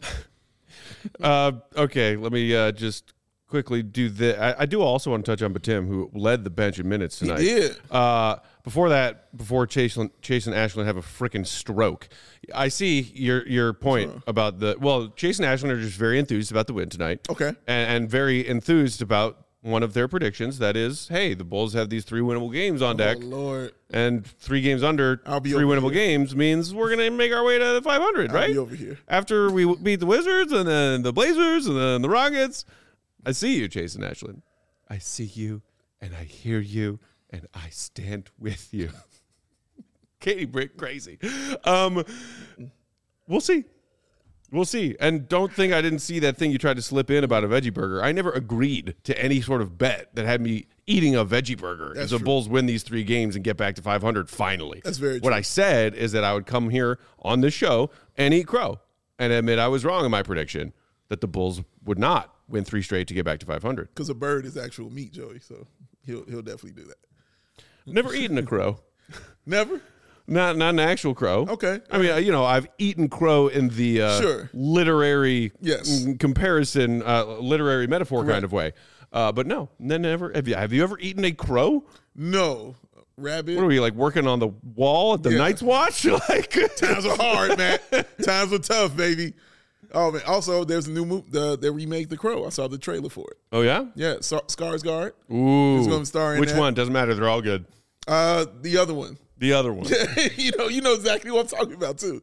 uh, okay, let me uh, just... quickly do the. I, I do also want to touch on Batum, who led the bench in minutes tonight. He did. Uh, before that, before Chase, Chase and Ashland have a freaking stroke. I see your your point uh-huh. about the. Well, Chase and Ashland are just very enthused about the win tonight. Okay. And, and very enthused about one of their predictions. That is, hey, the Bulls have these three winnable games on deck. Oh, Lord. And three games under I'll be three winnable here. games means we're going to make our way to five hundred, I'll right? be over here. After we beat the Wizards and then the Blazers and then the Rockets. I see you, Jason Ashland. I see you, and I hear you, and I stand with you. Katie Brick, crazy. Um, we'll see. We'll see. And don't think I didn't see that thing you tried to slip in about a veggie burger. I never agreed to any sort of bet that had me eating a veggie burger That's if the true. Bulls win these three games and get back to five hundred finally. That's very What true. I said is that I would come here on this show and eat crow and admit I was wrong in my prediction that the Bulls would not win three straight to get back to five hundred. Because a bird is actual meat, Joey. So he'll he'll definitely do that. Never eaten a crow. Never? Not not an actual crow. Okay. I mean, uh, you know, I've eaten crow in the uh, Sure. literary Yes. mm, comparison, uh, literary metaphor Correct. kind of way. Uh, but no, n- never. Have you, have you ever eaten a crow? No. Rabbit. What are we, like, working on the wall at the Yeah. Night's Watch? Like, Times are hard, man. Times are tough, baby. Oh, man. Also, there's a new movie. The, they remake The Crow. I saw the trailer for it. Oh, yeah? Yeah. Scar- Skarsgård. Ooh. Who's gonna star in Which that? one? Doesn't matter. They're all good. Uh, the other one. The other one. you know, you know exactly what I'm talking about too.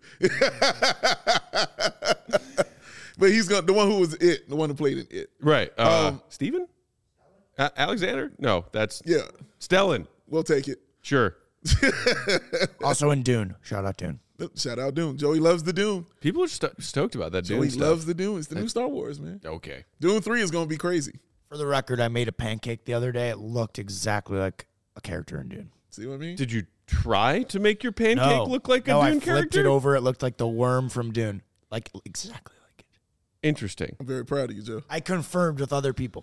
But he's gonna the one who was it, the one who played in it. Right. Uh, Um, Steven? A- Alexander? No, that's Yeah, Stellan. we'll take it. Sure. Also in Dune. Shout out Dune. Shout out Dune. Joey loves the Dune. People are sto- stoked about that Joey Dune stuff. loves the Dune. It's the new Star Wars, man. Okay. Dune three is gonna be crazy. For the record, I made a pancake the other day. It looked exactly like a character in Dune. See what I mean? Did you try to make your pancake No. look like a no, Dune I flipped character? it over. It looked like the worm from Dune. Like exactly like it. Interesting. I'm very proud of you, Joe. I confirmed with other people.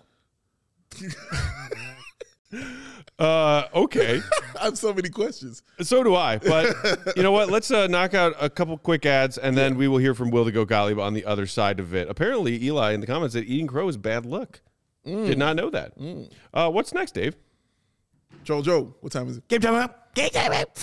Uh, okay. I have so many questions. So do I. But you know what? Let's uh, knock out a couple quick ads, and then we will hear from Will the Go Gottlieb on the other side of it. Apparently, Eli in the comments said eating crow is bad luck. Did not know that. Mm. Uh, what's next, Dave? Joe, Joe, what time is it? Game time up. Game time up.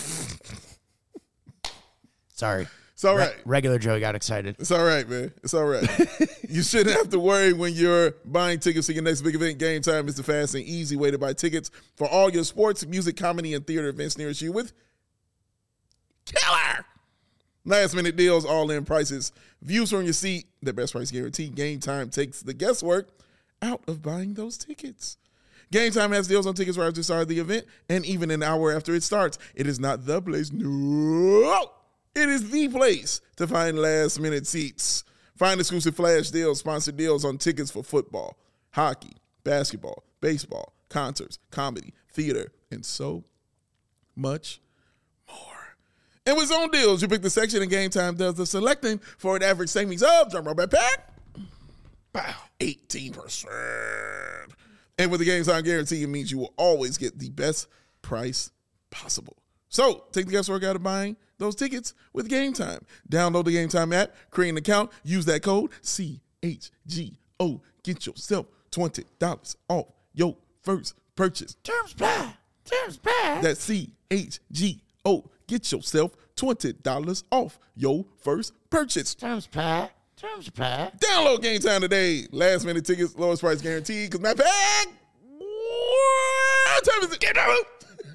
Sorry. It's all Re- right. regular Joe got excited. It's all right, man. It's all right. You shouldn't have to worry when you're buying tickets to your next big event. Game Time is the fast and easy way to buy tickets for all your sports, music, comedy, and theater events nearest you with killer last minute deals, all in prices, views from your seat, the best price guarantee. Game Time takes the guesswork out of buying those tickets. Game Time has deals on tickets right after the start of the event and even an hour after it starts. It is not the place. No. It is the place to find last-minute seats. Find exclusive flash deals, sponsored deals on tickets for football, hockey, basketball, baseball, concerts, comedy, theater, and so much more. And with zone deals, you pick the section and Game Time does the selecting for an average savings of, drum roll back, pack, wow, eighteen percent. And with the Game Time guarantee, it means you will always get the best price possible. So, take the guesswork out of buying those tickets with Game Time. Download the Game Time app, create an account, use that code C H G O. Get yourself twenty dollars off your first purchase. Terms apply. Terms apply. That's C H G O. Get yourself twenty dollars off your first purchase. Terms apply. Terms apply. Download Game Time today. Last minute tickets, lowest price guaranteed. Because my bag, time is it? Get out!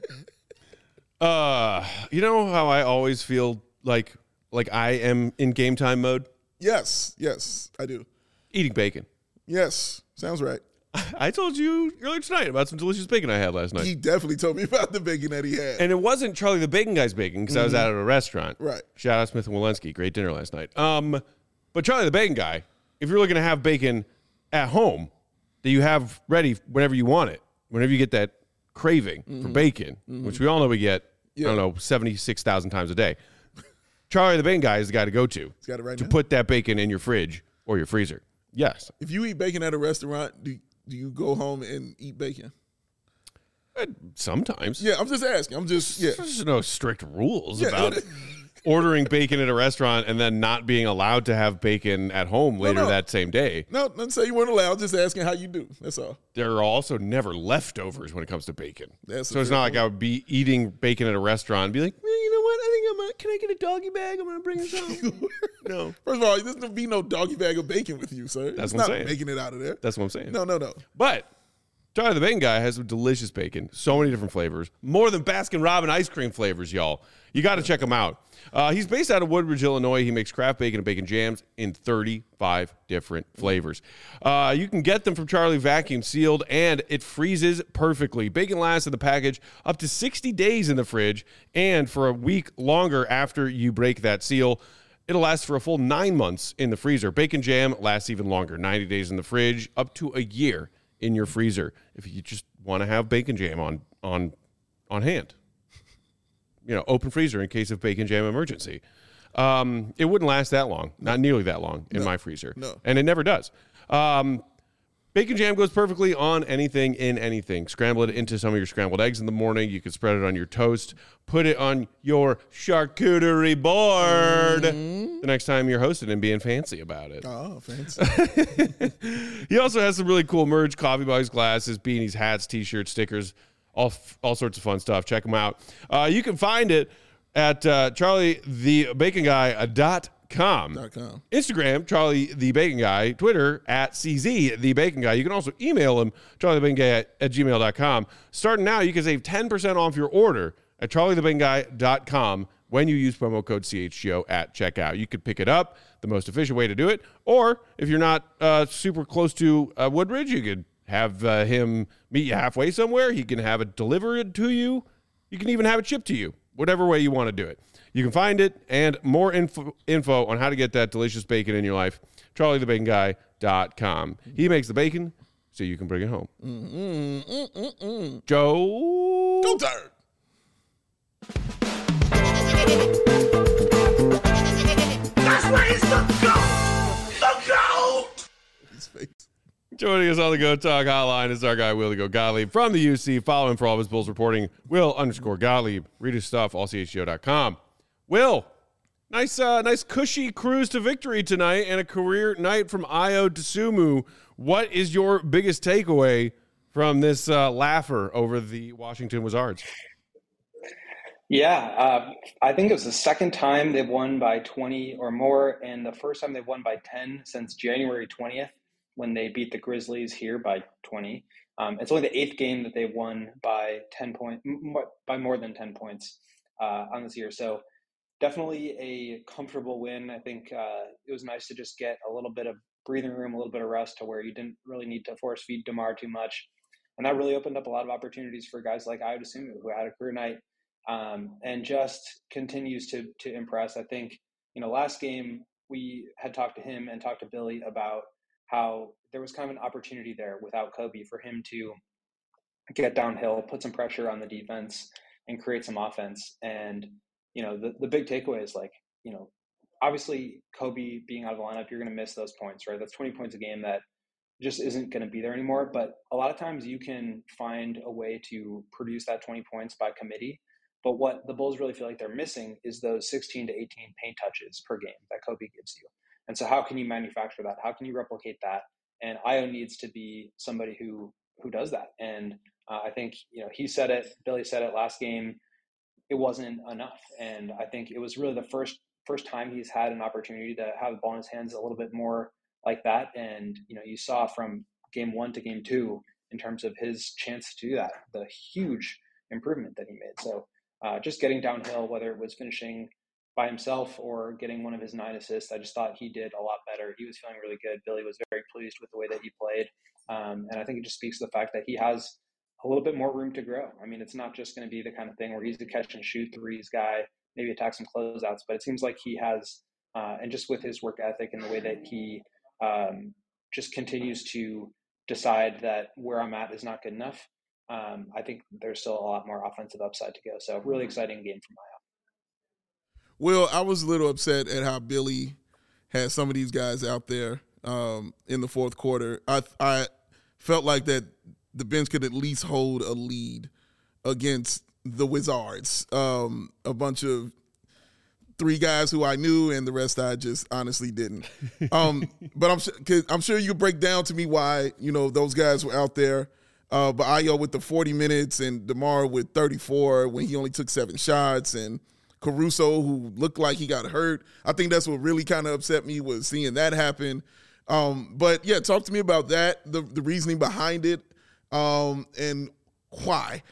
Uh, you know how I always feel like like I am in game time mode? Yes, yes, I do. Eating bacon. Yes, sounds right. I told you earlier tonight about some delicious bacon I had last night. He definitely told me about the bacon that he had. And it wasn't Charlie the Bacon Guy's bacon because mm-hmm. I was out at a restaurant. Right. Shout out Smith and Walensky. Great dinner last night. Um, but Charlie the Bacon Guy, if you're looking to have bacon at home that you have ready whenever you want it, whenever you get that craving mm-hmm. for bacon, mm-hmm. which we all know we get, yeah. I don't know, seventy-six thousand times a day. Charlie the Bacon Guy is the guy to go to. He's got it right to now. Put that bacon in your fridge or your freezer. Yes. If you eat bacon at a restaurant, do Do you go home and eat bacon? Uh, sometimes. Yeah, I'm just asking. I'm just, yeah. There's no strict rules yeah. about ordering bacon at a restaurant and then not being allowed to have bacon at home later no, no. that same day. No, don't say you weren't allowed. Just asking how you do. That's all. There are also never leftovers when it comes to bacon. That's so it's not point. like I would be eating bacon at a restaurant and be like, well, you know what? I think I'm gonna, can I get a doggy bag? I'm going to bring it home. No. First of all, there's going to be no doggy bag of bacon with you, sir. That's it's what not I'm saying. making it out of there. That's what I'm saying. No, no, no. But Charlie the Bacon Guy has some delicious bacon, so many different flavors, more than Baskin-Robbins ice cream flavors, y'all. You got to check him out. Uh, he's based out of Woodbridge, Illinois. He makes craft bacon and bacon jams in thirty-five different flavors. Uh, you can get them from Charlie vacuum sealed, and it freezes perfectly. Bacon lasts in the package up to sixty days in the fridge, and for a week longer after you break that seal. It'll last for a full nine months in the freezer. Bacon jam lasts even longer, ninety days in the fridge, up to a year in your freezer. If you just want to have bacon jam on on on hand. You know, open freezer in case of bacon jam emergency. Um, it wouldn't last that long, not nearly that long in no, my freezer. No. And it never does. Um, bacon jam goes perfectly on anything in anything. Scramble it into some of your scrambled eggs in the morning. You can spread it on your toast. Put it on your charcuterie board mm-hmm. the next time you're hosting and being fancy about it. Oh, fancy. He also has some really cool merch, coffee mugs, glasses, beanies, hats, T-shirts, stickers, all all sorts of fun stuff. Check them out. Uh, you can find it at uh, charlie the bacon guy dot com. .com. Instagram, Charlie the Bacon Guy. Twitter, at C Z the Bacon Guy. You can also email him, charlie the bacon guy at, at gmail dot com. Starting now, you can save ten percent off your order at charlie the bacon guy dot com when you use promo code C H G O at checkout. You could pick it up, the most efficient way to do it. Or if you're not uh, super close to uh, Woodbridge, you could have uh, him meet you halfway somewhere. He can have it delivered to you. You can even have it shipped to you, whatever way you want to do it. You can find it and more info, info on how to get that delicious bacon in your life, charlie the bacon guy dot com. He makes the bacon so you can bring it home. Mm-mm, mm-mm, mm. Joe. Go turn. That's where he's the goat. The goat. His face. Joining us on the Go Talk hotline is our guy, Will the Go Gottlieb from the U C. Follow him for all of his Bulls reporting. Will underscore Gottlieb. Read his stuff, all C H G O dot com. Will, nice uh, nice cushy cruise to victory tonight and a career night from Ayo Dosunmu. What is your biggest takeaway from this uh, laugher over the Washington Wizards? Yeah, uh, I think it was the second time they've won by twenty or more, and the first time they've won by ten since January twentieth. When they beat the Grizzlies here by twenty. Um, it's only the eighth game that they've won by ten point, by more than ten points uh, on this year. So definitely a comfortable win. I think uh, it was nice to just get a little bit of breathing room, a little bit of rest to where you didn't really need to force feed DeMar too much. And that really opened up a lot of opportunities for guys like Ayo Dosunmu, who had a career night um, and just continues to to impress. I think, you know, last game we had talked to him and talked to Billy about how there was kind of an opportunity there without Kobe for him to get downhill, put some pressure on the defense and create some offense. And, you know, the, the big takeaway is like, you know, obviously Kobe being out of the lineup, you're going to miss those points, right? That's twenty points a game that just isn't going to be there anymore. But a lot of times you can find a way to produce that twenty points by committee. But what the Bulls really feel like they're missing is those sixteen to eighteen paint touches per game that Kobe gives you. And so how can you manufacture that? How can you replicate that? And Ayo needs to be somebody who who does that. And uh, I think, you know, he said it, Billy said it last game, it wasn't enough. And I think it was really the first first time he's had an opportunity to have the ball in his hands a little bit more like that. And, you know, you saw from game one to game two, in terms of his chance to do that, the huge improvement that he made. So uh, just getting downhill, whether it was finishing by himself or getting one of his nine assists, I just thought he did a lot better. He was feeling really good. Billy was very pleased with the way that he played. Um, and I think it just speaks to the fact that he has a little bit more room to grow. I mean, it's not just going to be the kind of thing where he's a catch and shoot threes guy, maybe attack some closeouts, but it seems like he has, uh, and just with his work ethic and the way that he um, just continues to decide that where I'm at is not good enough. Um, I think there's still a lot more offensive upside to go. So really exciting game for Maya. Well, I was a little upset at how Billy had some of these guys out there um, in the fourth quarter. I I felt like that the bench could at least hold a lead against the Wizards. Um, a bunch of three guys who I knew, and the rest I just honestly didn't. Um, but I'm cause I'm sure you could break down to me why you know those guys were out there. Uh, but Ayo with the forty minutes and DeMar with thirty-four when he only took seven shots, and Caruso, who looked like he got hurt. I think that's what really kind of upset me was seeing that happen. Um, but, yeah, talk to me about that, the, the reasoning behind it, um, and why.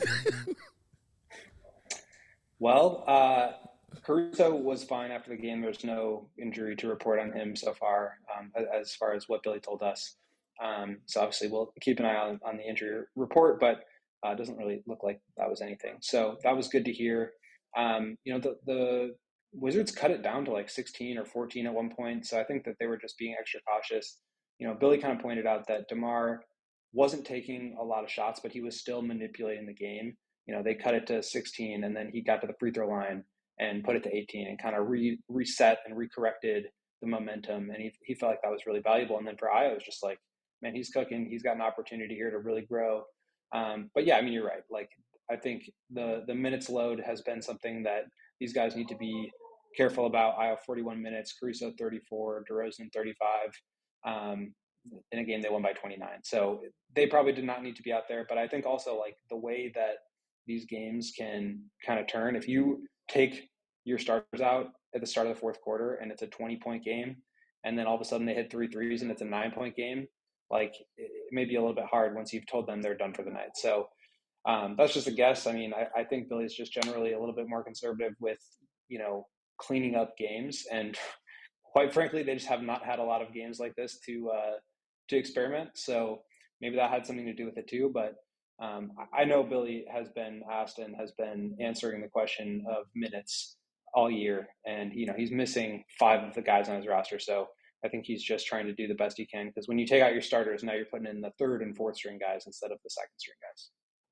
Well, uh, Caruso was fine after the game. There's no injury to report on him so far, um, as far as what Billy told us. Um, so, obviously, we'll keep an eye on, on the injury report, but uh, it doesn't really look like that was anything. So, that was good to hear. Um, you know, the, the Wizards cut it down to like sixteen or fourteen at one point. So I think that they were just being extra cautious. You know, Billy kind of pointed out that DeMar wasn't taking a lot of shots, but he was still manipulating the game. You know, they cut it to sixteen and then he got to the free throw line and put it to eighteen and kind of re- reset and recorrected the momentum. And he, he felt like that was really valuable. And then for Ayo, it was just like, man, he's cooking. He's got an opportunity here to really grow. Um, but yeah, I mean, you're right. Like, I think the the minutes load has been something that these guys need to be careful about. Ayo forty-one minutes, Caruso thirty-four, DeRozan thirty-five. Um, in a game they won by twenty-nine. So they probably did not need to be out there. But I think also like the way that these games can kind of turn, if you take your starters out at the start of the fourth quarter and it's a twenty-point game, and then all of a sudden they hit three threes and it's a nine-point game, like it may be a little bit hard once you've told them they're done for the night. So Um, that's just a guess. I mean, I, I think Billy's just generally a little bit more conservative with, you know, cleaning up games. And quite frankly, they just have not had a lot of games like this to uh, to experiment. So maybe that had something to do with it too. But um, I know Billy has been asked and has been answering the question of minutes all year. And, you know, he's missing five of the guys on his roster. So I think he's just trying to do the best he can. Because when you take out your starters, now you're putting in the third and fourth string guys instead of the second string guys.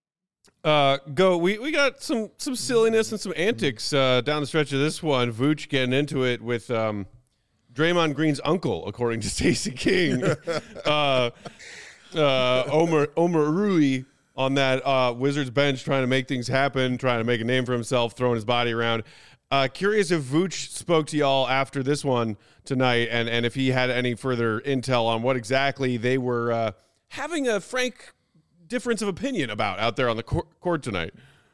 Uh, go. We, we got some some silliness and some antics uh, down the stretch of this one. Vooch getting into it with um, Draymond Green's uncle, according to Stacey King. uh, uh, Omar Omar Rui on that uh, Wizards bench, trying to make things happen, trying to make a name for himself, throwing his body around. Uh, curious if Vooch spoke to y'all after this one tonight, and and if he had any further intel on what exactly they were uh, having a frank difference of opinion about out there on the court tonight.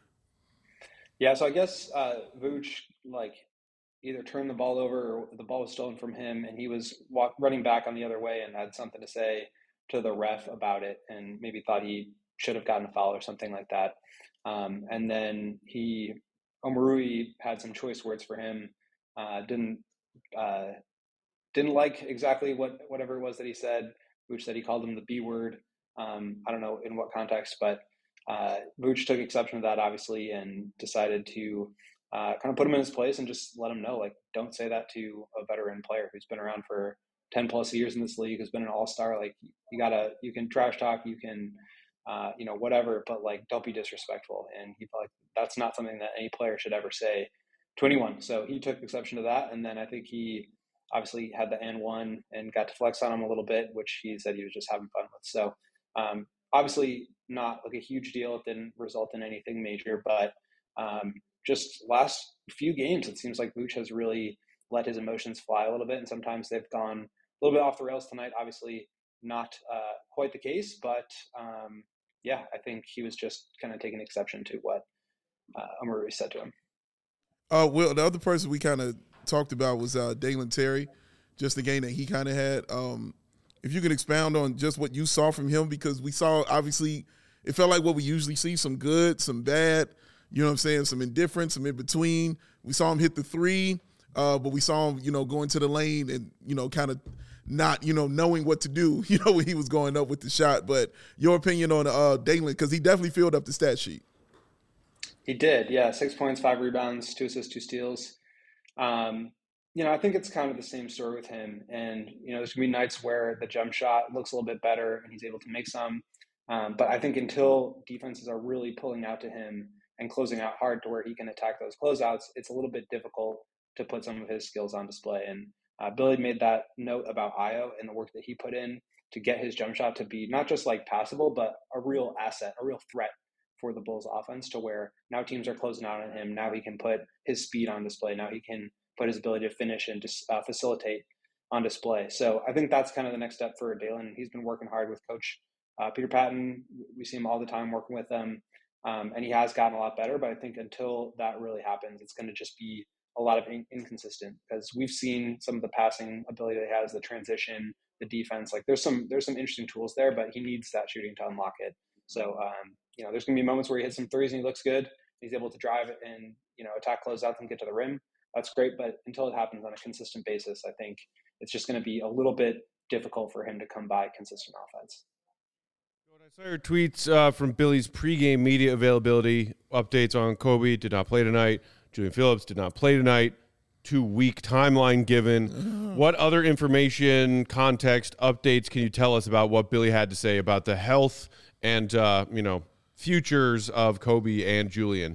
Yeah, so I guess uh, Vooch like either turned the ball over or the ball was stolen from him, and he was walk, running back on the other way and had something to say to the ref about it, and maybe thought he should have gotten a foul or something like that. Um, and then he, Omarui had some choice words for him. Uh, didn't uh, didn't like exactly what whatever it was that he said. Vooch said he called him the B word. Um, I don't know in what context, but uh, Vooch took exception to that, obviously, and decided to uh, kind of put him in his place and just let him know, like, don't say that to a veteran player who's been around for ten plus years in this league, who's been an all-star. Like, you gotta, you can trash talk, you can, uh, you know, whatever, but like, don't be disrespectful. And he felt like that's not something that any player should ever say to anyone. So he took exception to that. And then I think he obviously had the N one and got to flex on him a little bit, which he said he was just having fun with. So um, obviously not like a huge deal. It didn't result in anything major, but um, just last few games, it seems like Vooch has really let his emotions fly a little bit. And sometimes they've gone a little bit off the rails tonight. Obviously not uh, quite the case, but um, yeah, I think he was just kind of taking exception to what uh, Omarui said to him. Uh, well, the other person we kind of talked about was uh, Dalen Terry, just the game that he kind of had. Um, if you can expound on just what you saw from him, because we saw, obviously, it felt like what we usually see, some good, some bad, you know what I'm saying, some indifference, some in between. We saw him hit the three, uh, but we saw him, you know, go into the lane and, you know, kind of not, you know, knowing what to do, you know, when he was going up with the shot. But your opinion on uh, Dalen, because he definitely filled up the stat sheet. He did, yeah. Six points, five rebounds, two assists, two steals. Um, you know, I think it's kind of the same story with him. And, you know, there's going to be nights where the jump shot looks a little bit better and he's able to make some. Um, but I think until defenses are really pulling out to him and closing out hard to where he can attack those closeouts, it's a little bit difficult to put some of his skills on display. And uh, Billy made that note about Ayo and the work that he put in to get his jump shot to be not just like passable, but a real asset, a real threat for the Bulls offense, to where now teams are closing out on him. Now he can put his speed on display. Now he can put his ability to finish and just uh, facilitate on display. So I think that's kind of the next step for Dalen. He's been working hard with Coach uh, Peter Patton. We see him all the time working with them, um, and he has gotten a lot better. But I think until that really happens, it's going to just be a lot of in- inconsistent, because we've seen some of the passing ability that he has, the transition, the defense. Like there's some there's some interesting tools there, but he needs that shooting to unlock it. So um, you know, there's going to be moments where he hits some threes and he looks good. He's able to drive it and, you know, attack closeouts and get to the rim. That's great. But until it happens on a consistent basis, I think it's just going to be a little bit difficult for him to come by consistent offense. I saw your tweets uh, from Billy's pregame media availability updates on Kobe. Did not play tonight. Julian Phillips did not play tonight. Two-week timeline given. What other information, context, updates can you tell us about what Billy had to say about the health and, uh, you know, futures of Kobe and Julian?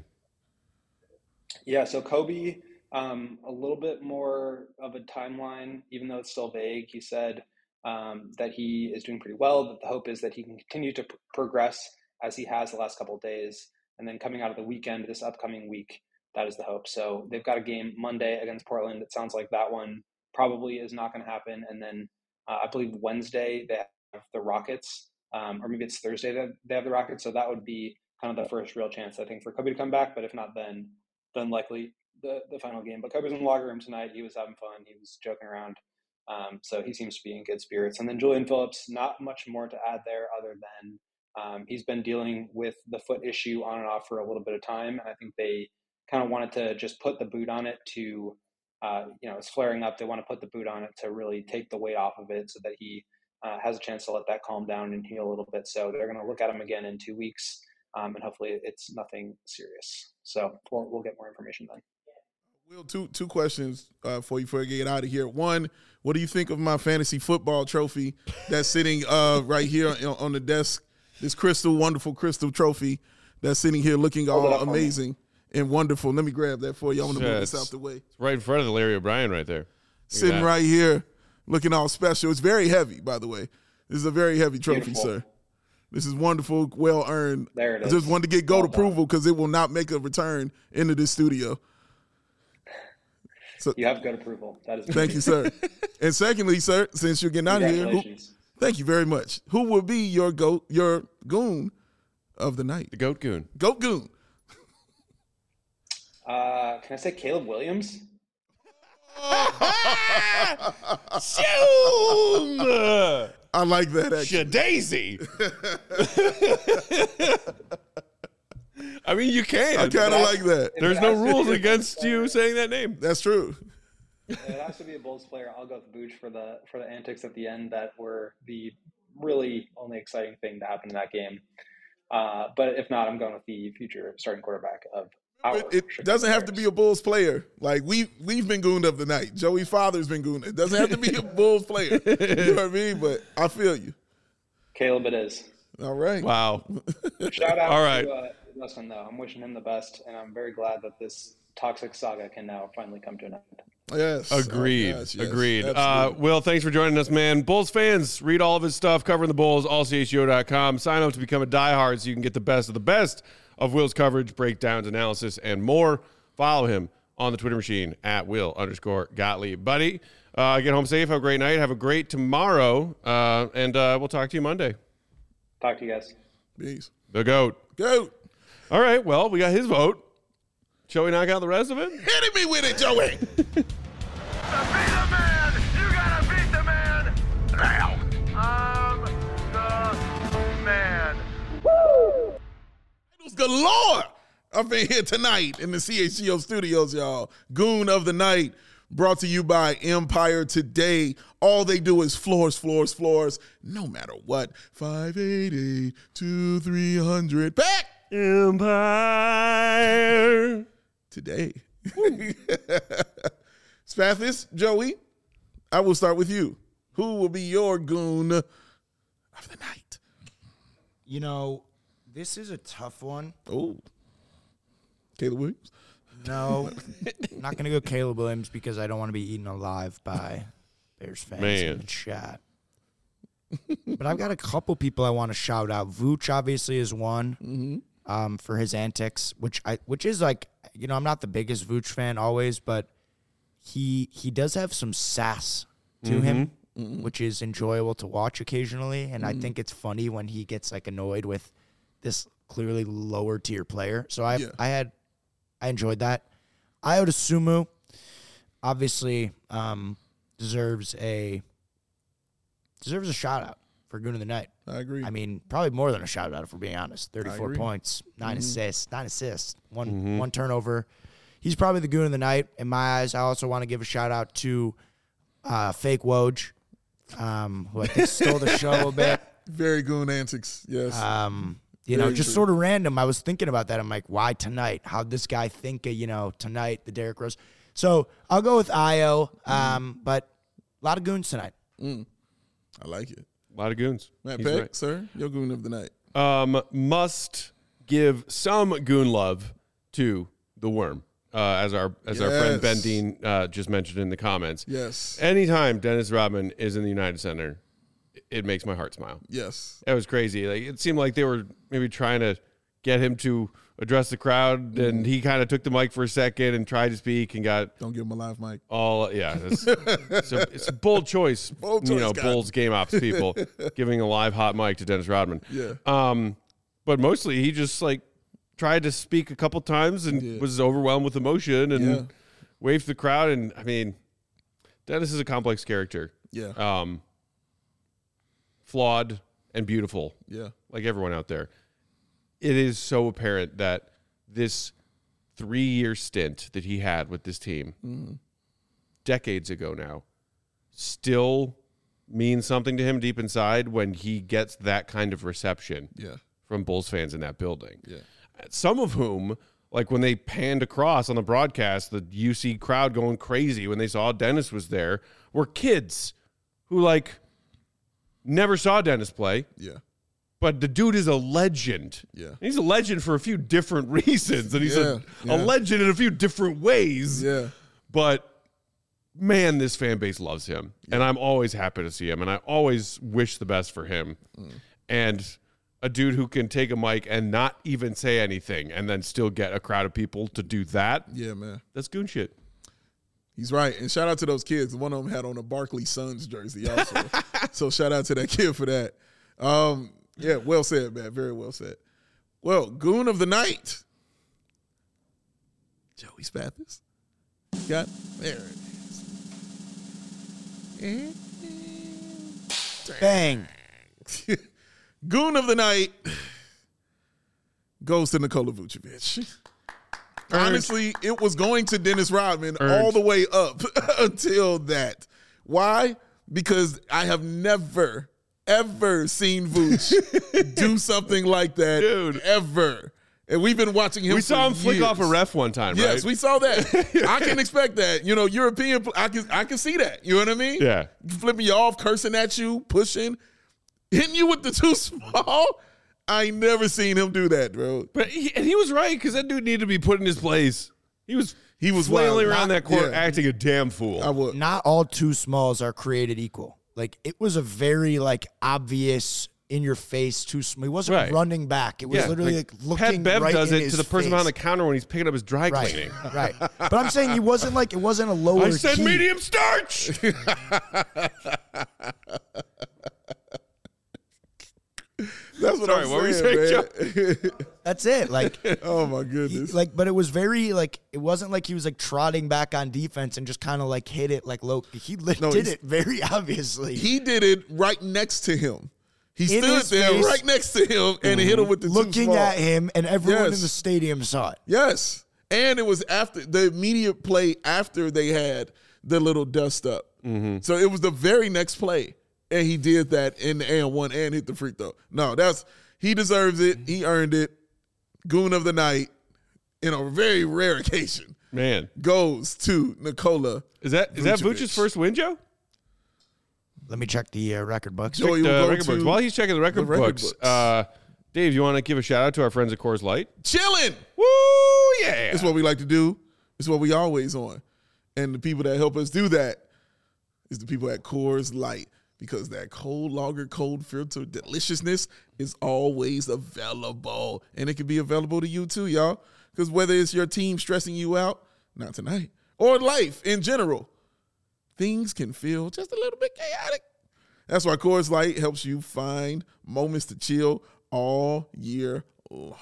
Yeah, so Kobe, um, a little bit more of a timeline, even though it's still vague. He said um, that he is doing pretty well, that the hope is that he can continue to pr- progress as he has the last couple of days. And then coming out of the weekend, this upcoming week, that is the hope. So they've got a game Monday against Portland. It sounds like that one probably is not going to happen. And then uh, I believe Wednesday they have the Rockets, um, or maybe it's Thursday that they have the Rockets. So that would be kind of the first real chance, I think, for Kobe to come back. But if not, then then likely the, the final game. But Kobe's in the locker room tonight. He was having fun. He was joking around. Um, so he seems to be in good spirits. And then Julian Phillips, not much more to add there other than um, he's been dealing with the foot issue on and off for a little bit of time. And I think they kind of wanted to just put the boot on it to, uh, you know, it's flaring up. They want to put the boot on it to really take the weight off of it so that he uh, has a chance to let that calm down and heal a little bit. So they're going to look at him again in two weeks, um, and hopefully it's nothing serious. So we'll, we'll get more information then. Will, two two questions uh, for you before I get out of here. One, what do you think of my fantasy football trophy that's sitting uh, right here on, on the desk? This crystal, wonderful crystal trophy that's sitting here looking all amazing and wonderful. Let me grab that for you. I want to move this out the way. It's right in front of the Larry O'Brien right there. Look Sitting right here, looking all special. It's very heavy, by the way. This is a very heavy trophy, Beautiful. sir. This is wonderful, well earned. There it is. I just wanted to get goat well approval because it will not make a return into this studio. So, you have good approval. That is. Thank you, sir. And secondly, sir, since you're getting out of here, who, thank you very much. Who will be your goat, your goon of the night? The goat goon. Goat goon. Uh, can I say Caleb Williams? Shoom! I like that, actually. Daisy. I mean, you can. I kind of like that. There's no rules against you saying that name. That's true. It has to be a Bulls player. I'll go with Booch for the for the antics at the end that were the really only exciting thing to happen in that game. Uh, but if not, I'm going with the future starting quarterback of our It, it doesn't have to be a Bulls player. Like, we, we've been gooned of the night. Joey Father's been gooned. It doesn't have to be a Bulls player. You know what I mean? But I feel you. Caleb it is. All right. Wow. Shout out All right. to uh, Dustin, though. I'm wishing him the best, and I'm very glad that this toxic saga can now finally come to an end. Yes. Agreed. Oh, yes, yes, Agreed. Uh, absolutely. Will, thanks for joining us, man. Bulls fans, read all of his stuff, covering the Bulls, all c h o dot com. Sign up to become a diehard so you can get the best of the best of Will's coverage, breakdowns, analysis, and more. Follow him on the Twitter machine at Will underscore Gottlieb. Buddy, uh, get home safe. Have a great night. Have a great tomorrow. Uh, and uh, we'll talk to you Monday. Talk to you guys. Peace. The GOAT. Goat. All right. Well, we got his vote. Shall we knock out the rest of it? Hit me with it, Joey. To be the man, you gotta beat the man now. galore up in here tonight in the C H G O studios, y'all. Goon of the Night brought to you by Empire Today. All they do is floors, floors, floors, no matter what. five eight eight, two three hundred. Back! Empire Today. Spathis, Joey, I will start with you. Who will be your goon of the night? You know, this is a tough one. Oh, Caleb Williams? No, I'm not going to go Caleb Williams because I don't want to be eaten alive by Bears fans Man. in the chat. But I've got a couple people I want to shout out. Vooch obviously is one Mm-hmm. um, for his antics, which I which is like, you know, I'm not the biggest Vooch fan always, but he he does have some sass to Mm-hmm. him, which is enjoyable to watch occasionally. And Mm-hmm. I think it's funny when he gets like annoyed with this clearly lower tier player. So I Yeah. I had I enjoyed that. Ayo Sumu obviously um, deserves a deserves a shout out for Goon of the Night. I agree. I mean, probably more than a shout out if we're being honest. thirty-four agree. points, 9 Mm-hmm. assists, nine assists, one one turnover. He's probably the Goon of the Night in my eyes. I also want to give a shout out to uh, Fake Woj, um, who I think stole the show a bit. Very goon antics, yes. Um, you know, Very just true. sort of random. I was thinking about that. I'm like, why tonight? How'd this guy think of, you know, tonight, the Derrick Rose? So I'll go with Ayo, um, but a lot of goons tonight. I like it. A lot of goons. Matt He's Peck, right. sir, your goon of the night. Um, must give some goon love to the Worm, uh, as our as our friend Ben Yes. Dean uh, just mentioned in the comments. Yes. Anytime Dennis Rodman is in the United Center, it makes my heart smile. Yes. That was crazy. Like it seemed like they were maybe trying to get him to address the crowd, and he kind of took the mic for a second and tried to speak and got Don't give him a live mic. all. Yeah, it's, it's, a, it's a bold choice. Bold you choice, know, guys. Bulls game ops people giving a live hot mic to Dennis Rodman. Yeah. Um, but mostly he just like tried to speak a couple times and Yeah. was overwhelmed with emotion and Yeah. waved the crowd. And I mean, Dennis is a complex character. Yeah. Um, flawed and beautiful, Yeah. like everyone out there. It is so apparent that this three-year stint that he had with this team, decades ago now, still means something to him deep inside when he gets that kind of reception Yeah. from Bulls fans in that building. Yeah. Some of whom, like when they panned across on the broadcast, the U C crowd going crazy when they saw Dennis was there, were kids who like never saw Dennis play. Yeah. But the dude is a legend. Yeah. And he's a legend for a few different reasons. And he's Yeah, a, yeah. a legend in a few different ways. Yeah. But man, this fan base loves him. And I'm always happy to see him. And I always wish the best for him. Mm. And a dude who can take a mic and not even say anything and then still get a crowd of people to do that. Yeah, man. That's goon shit. He's right. And shout out to those kids. One of them had on a Barkley Suns jersey also. So shout out to that kid for that. Um, yeah, well said, man. Very well said. Well, Goon of the Night. Joey Spathis. Got there it is. Bang. Goon of the Night goes to Nikola Vucevic. Honestly, it was going to Dennis Rodman all the way up until that. Why? Because I have never, ever seen Vooch do something like that. Dude. Ever. And we've been watching him We saw him for flick years. off a ref one time, right? Yes, we saw that. I can expect that. You know, European, I can I can see that. You know what I mean? Yeah. Flipping you off, cursing at you, pushing, hitting you with the too small. I ain't never seen him do that, bro. But he, and he was right because that dude needed to be put in his place. He was He was flailing wild. around Not- that court yeah. acting a damn fool. I would. Not all two smalls are created equal. Like, it was a very, like, obvious, in-your-face two small. He wasn't Right. running back. It was Yeah, literally, like, looking Pat Bev right does in it his to the person face. behind the counter when he's picking up his dry Right, cleaning. right. But I'm saying he wasn't, like, it wasn't a lower I said key. medium starch. That's what Sorry, I'm what were you saying, saying, man. That's it. Like, Oh my he, goodness. like, but it was very, like, it wasn't like he was, like, trotting back on defense and just kind of, like, hit it, like, low. He li- No, did he's- it very obviously. He did it right next to him. He in stood his there face, right next to him and he hit him with the too looking small. at him, and everyone Yes. in the stadium saw it. Yes. And it was after the immediate play after they had the little dust up. Mm-hmm. So it was the very next play. And he did that in the and one and hit the free throw. No, that's he deserves it. He earned it. Goon of the night, in a very rare occasion, Man. goes to Nikola. Is that is that Vucevic. Vucevic's first win, Joe? Let me check the uh, record books. Joey The will go record books. to While he's checking the record, the record books, books. Uh, Dave, you want to give a shout out to our friends at Coors Light? chilling. Woo, yeah. It's what we like to do. It's what we always on. And the people that help us do that is the people at Coors Light, because that cold lager, cold filter deliciousness is always available. And it can be available to you too, y'all. Because whether it's your team stressing you out, not tonight, or life in general, things can feel just a little bit chaotic. That's why Coors Light helps you find moments to chill all year long.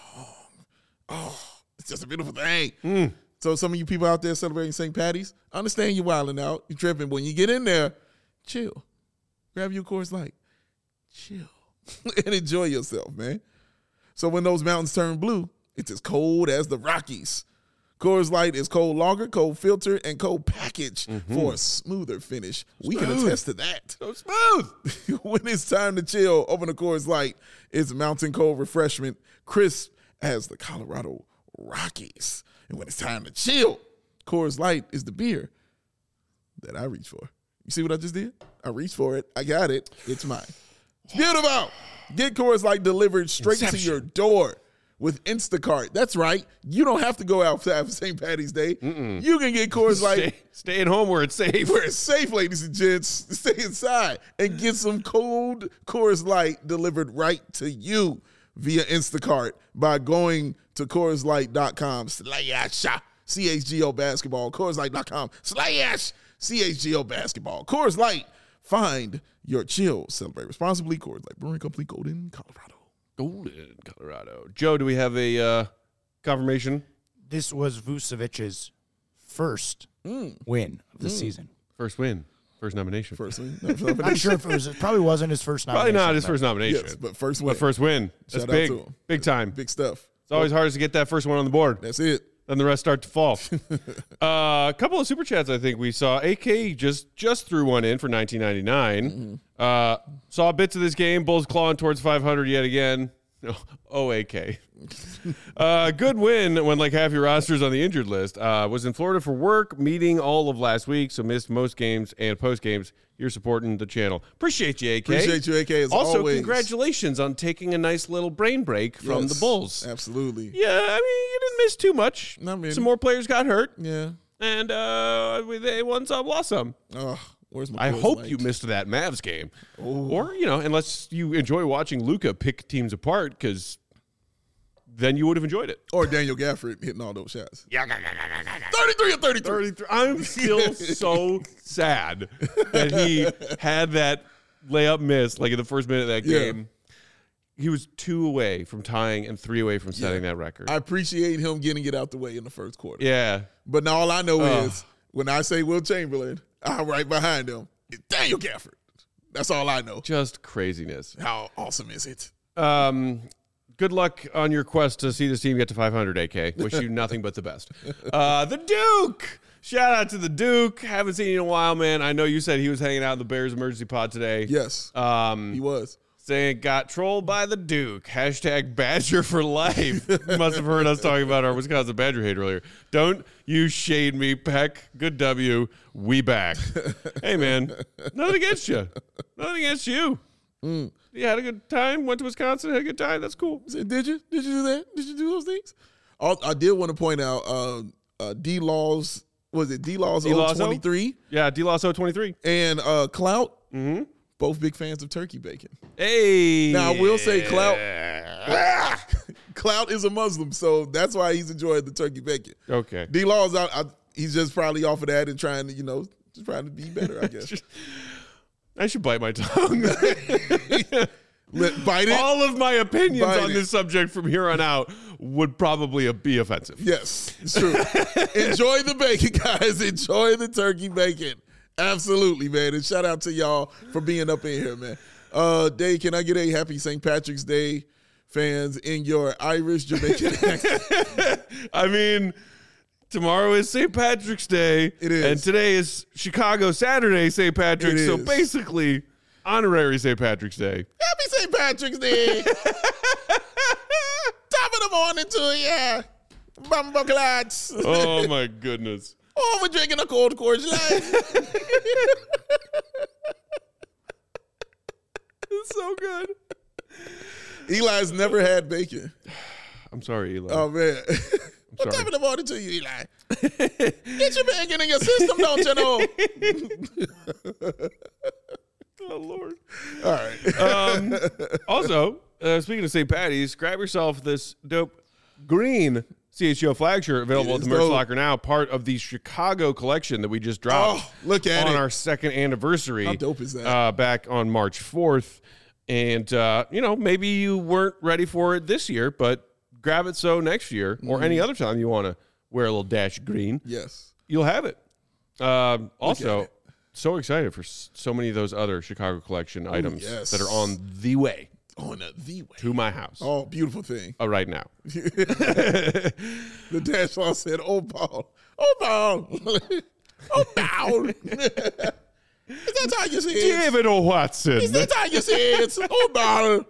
Oh, it's just a beautiful thing. So some of you people out there celebrating Saint Patty's, I understand you're wilding out, you're tripping. When you get in there, chill. Grab your Coors Light. Chill. And enjoy yourself, man. So when those mountains turn blue, it's as cold as the Rockies. Coors Light is cold lager, cold filter, and cold package for a smoother finish. We can attest to that. So smooth. When it's time to chill, open a Coors Light. It's mountain cold refreshment, crisp as the Colorado Rockies. And when it's time to chill, Coors Light is the beer that I reach for. You see what I just did? I reached for it. I got it. It's mine. It's beautiful. Get Coors Light delivered straight Inception. to your door with Instacart. That's right. You don't have to go out for Saint Patty's Day. You can get Coors Light Stay, stay at home where it's safe. where it's safe, ladies and gents. Stay inside and get some cold Coors Light delivered right to you via Instacart by going to Coors Light dot com slash C H G O basketball. Coors Light dot com slash C H G O basketball. Coors Light. Find your chill. Celebrate responsibly. Coors Light Brewing Company, Golden, Colorado. Golden, Colorado. Joe, do we have a uh, confirmation? This was Vucevic's first win of the season. First win. First nomination. First one. Not sure if it was. It probably wasn't his first Probably nomination. not his but first nomination. Yes, but first win. But first win. That's Shout out big. to him. Big time. Big stuff. It's always hardest to get that first one on the board. That's it. Then the rest start to fall. uh, a couple of super chats I think we saw. A K just just threw one in for nineteen ninety-nine. Mm-hmm. Uh, saw bits of this game. Bulls clawing towards five hundred yet again. Oh, A K. uh, good win when like half your roster's on the injured list. Uh, was in Florida for work, meeting all of last week, so missed most games and post games. You're supporting the channel. Appreciate you, A K. Appreciate you, A K, as also, always. congratulations on taking a nice little brain break from Yes, the Bulls. Absolutely. Yeah, I mean, you didn't miss too much. Not many. Some more players got hurt, Yeah. and uh, they won some, lost some. Oh, where's my I Coors hope Light? you missed that Mavs game. Or, you know, unless you enjoy watching Luka pick teams apart, because then you would have enjoyed it. Or Daniel Gafford hitting all those shots. Yeah, thirty-three or thirty-three. thirty-three. I'm still so sad that he had that layup miss, like in the first minute of that Yeah. game. He was two away from tying and three away from setting Yeah. that record. I appreciate him getting it out the way in the first quarter. yeah. But now all I know Ugh. is when I say Will Chamberlain, I'm right behind him. It's Daniel Gafford. That's all I know. Just craziness. How awesome is it? Um, good luck on your quest to see this team get to five hundred, A K. Wish you nothing but the best. Uh, the Duke. Shout out to the Duke. Haven't seen you in a while, man. I know you said he was hanging out in the Bears emergency pod today. Yes, Um, he was. saying got trolled by the Duke. Hashtag Badger for life. You must have heard us talking about our Wisconsin Badger hate earlier. Don't you shade me, Peck. Good W. We back. Hey, man. Nothing against you. Nothing against you. Mm. You had a good time. Went to Wisconsin. Had a good time. That's cool. Said, Did you? Did you do that? Did you do those things? Al- I did want to point out uh, uh, D-Laws, was it D-Laws D-Laws O? twenty-three Yeah, D-Loss O twenty-three. and uh, Clout, mm-hmm. both big fans of turkey bacon. Hey. Now, I will say Clout, Clout is a Muslim, so that's why he's enjoying the turkey bacon. Okay. D-Laws, I, I, he's just probably off of that and trying to, you know, just trying to be better, I guess. I should bite my tongue. Let, bite it. All of my opinions Bite on it. this subject from here on out would probably be offensive. Yes, it's true. Enjoy the bacon, guys. Enjoy the turkey bacon. Absolutely, man. And shout out to y'all for being up in here, man. Uh, Dave, can I get a happy Saint Patrick's Day, fans, in your Irish Jamaican accent? I mean, tomorrow is Saint Patrick's Day. It is. And today is Chicago Saturday Saint Patrick's. It So is. basically, honorary Saint Patrick's Day. Happy Saint Patrick's Day. Top of the morning to you. Bumble clads. Oh, my goodness. Oh, we're drinking a cold Coors Light. It's so good. Eli's never had bacon. I'm sorry, Eli. Oh, man. What sorry. time of the morning to you, Eli? Get your bacon in your system, don't you know? Oh, Lord. All right. Um, also, uh, speaking of Saint Patty's, grab yourself this dope green C H G O flag shirt available It at the is merch dope. locker now, part of the Chicago collection that we just dropped Oh, look at on it. our second anniversary. How dope is that? Uh, back on March fourth. And, uh, you know, maybe you weren't ready for it this year, but grab it so next year or any Mm-hmm. other time you want to wear a little dash of green, Yes. you'll have it. Um, also, it. so excited for s- so many of those other Chicago collection items yes. that are on the way On a the way. to my house Oh, beautiful thing. uh, right now. The dash law said, oh, Paul. Oh, Paul. Oh, Paul. Is that how you say it? David O. Watson. Is that how you say it? Oh, Paul.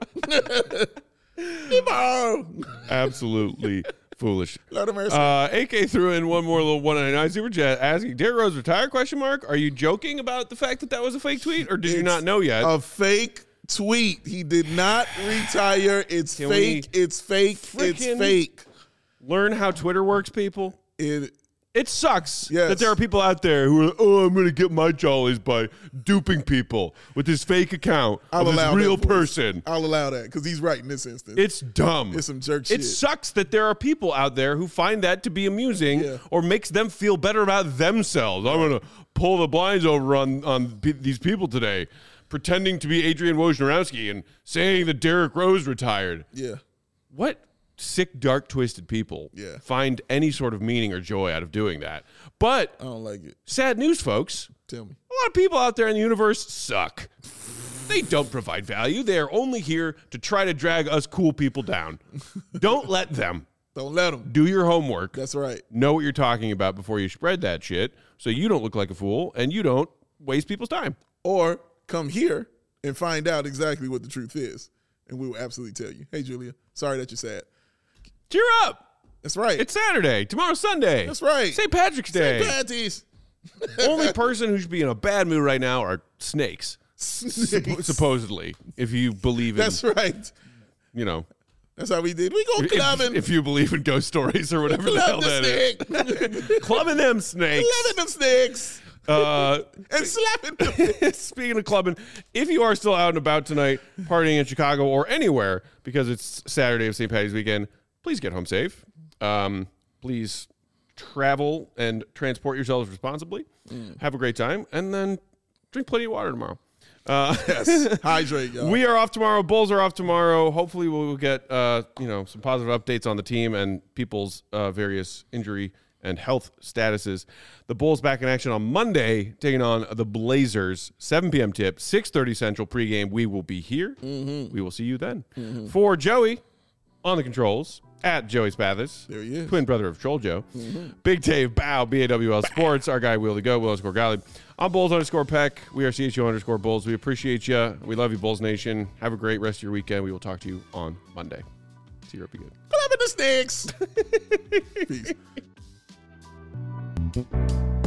Hey, Paul. Absolutely foolish. Lord of mercy. Uh, A K threw in one more little one ninety-nine super chat asking, Derrick Rose retire, question mark? Are you joking about the fact that that was a fake tweet, or did you It's not know yet? A fake tweet. He did not retire. It's Can fake. we It's fake. It's frickin- fake. Learn how Twitter works, people. It, It sucks Yes. that there are people out there who are, oh, I'm going to get my jollies by duping people with this fake account I'll of this allow real that voice. person. I'll allow that because he's right in this instance. It's dumb. It's some jerk It shit. sucks that there are people out there who find that to be amusing Yeah. or makes them feel better about themselves. I'm going to pull the blinds over on, on pe- these people today, pretending to be Adrian Wojnarowski and saying that Derrick Rose retired. yeah. What sick, dark, twisted people Yeah. find any sort of meaning or joy out of doing that? But I don't like it. sad news, folks. Tell me. A lot of people out there in the universe suck. They don't provide value. They are only here to try to drag us cool people down. Don't let them. Don't let him. Do your homework. That's right. Know what you're talking about before you spread that shit so you don't look like a fool and you don't waste people's time. Or come here and find out exactly what the truth is. And we will absolutely tell you. Hey, Julia, sorry that you're sad. Cheer up. That's right. It's Saturday. Tomorrow's Sunday. That's right. Saint Patrick's Day. Saint Patty's. Only person who should be in a bad mood right now are snakes. Snakes. Supposedly, if you believe in, That's right. you know, That's how we did. We go if, clubbing. if you believe in ghost stories or whatever the hell Club that the is. snake. Clubbing them snakes. Clubbing them snakes. Uh, And slapping them. speaking of clubbing, if you are still out and about tonight, partying in Chicago or anywhere because it's Saturday of Saint Patty's weekend, please get home safe. Um, please travel and transport yourselves responsibly. Mm. Have a great time, and then drink plenty of water tomorrow. Uh, Yes. Hydrate, y'all. we are off tomorrow. Bulls are off tomorrow. Hopefully, we'll get uh, you know some positive updates on the team and people's uh, various injury and health statuses. The Bulls back in action on Monday, taking on the Blazers. seven p.m. tip, six thirty Central pregame. We will be here. Mm-hmm. We will see you then. For Joey on the controls, at Joey Spathis. There he is. Twin brother of Troll Joe. Big Dave Bow, B A W L Sports. Our guy, Will to Go, Will underscore Golly. I'm Bulls underscore Peck. We are C H O underscore Bulls. We appreciate you. We love you, Bulls Nation. Have a great rest of your weekend. We will talk to you on Monday. See you. Be good. Clubbing the snakes. Peace.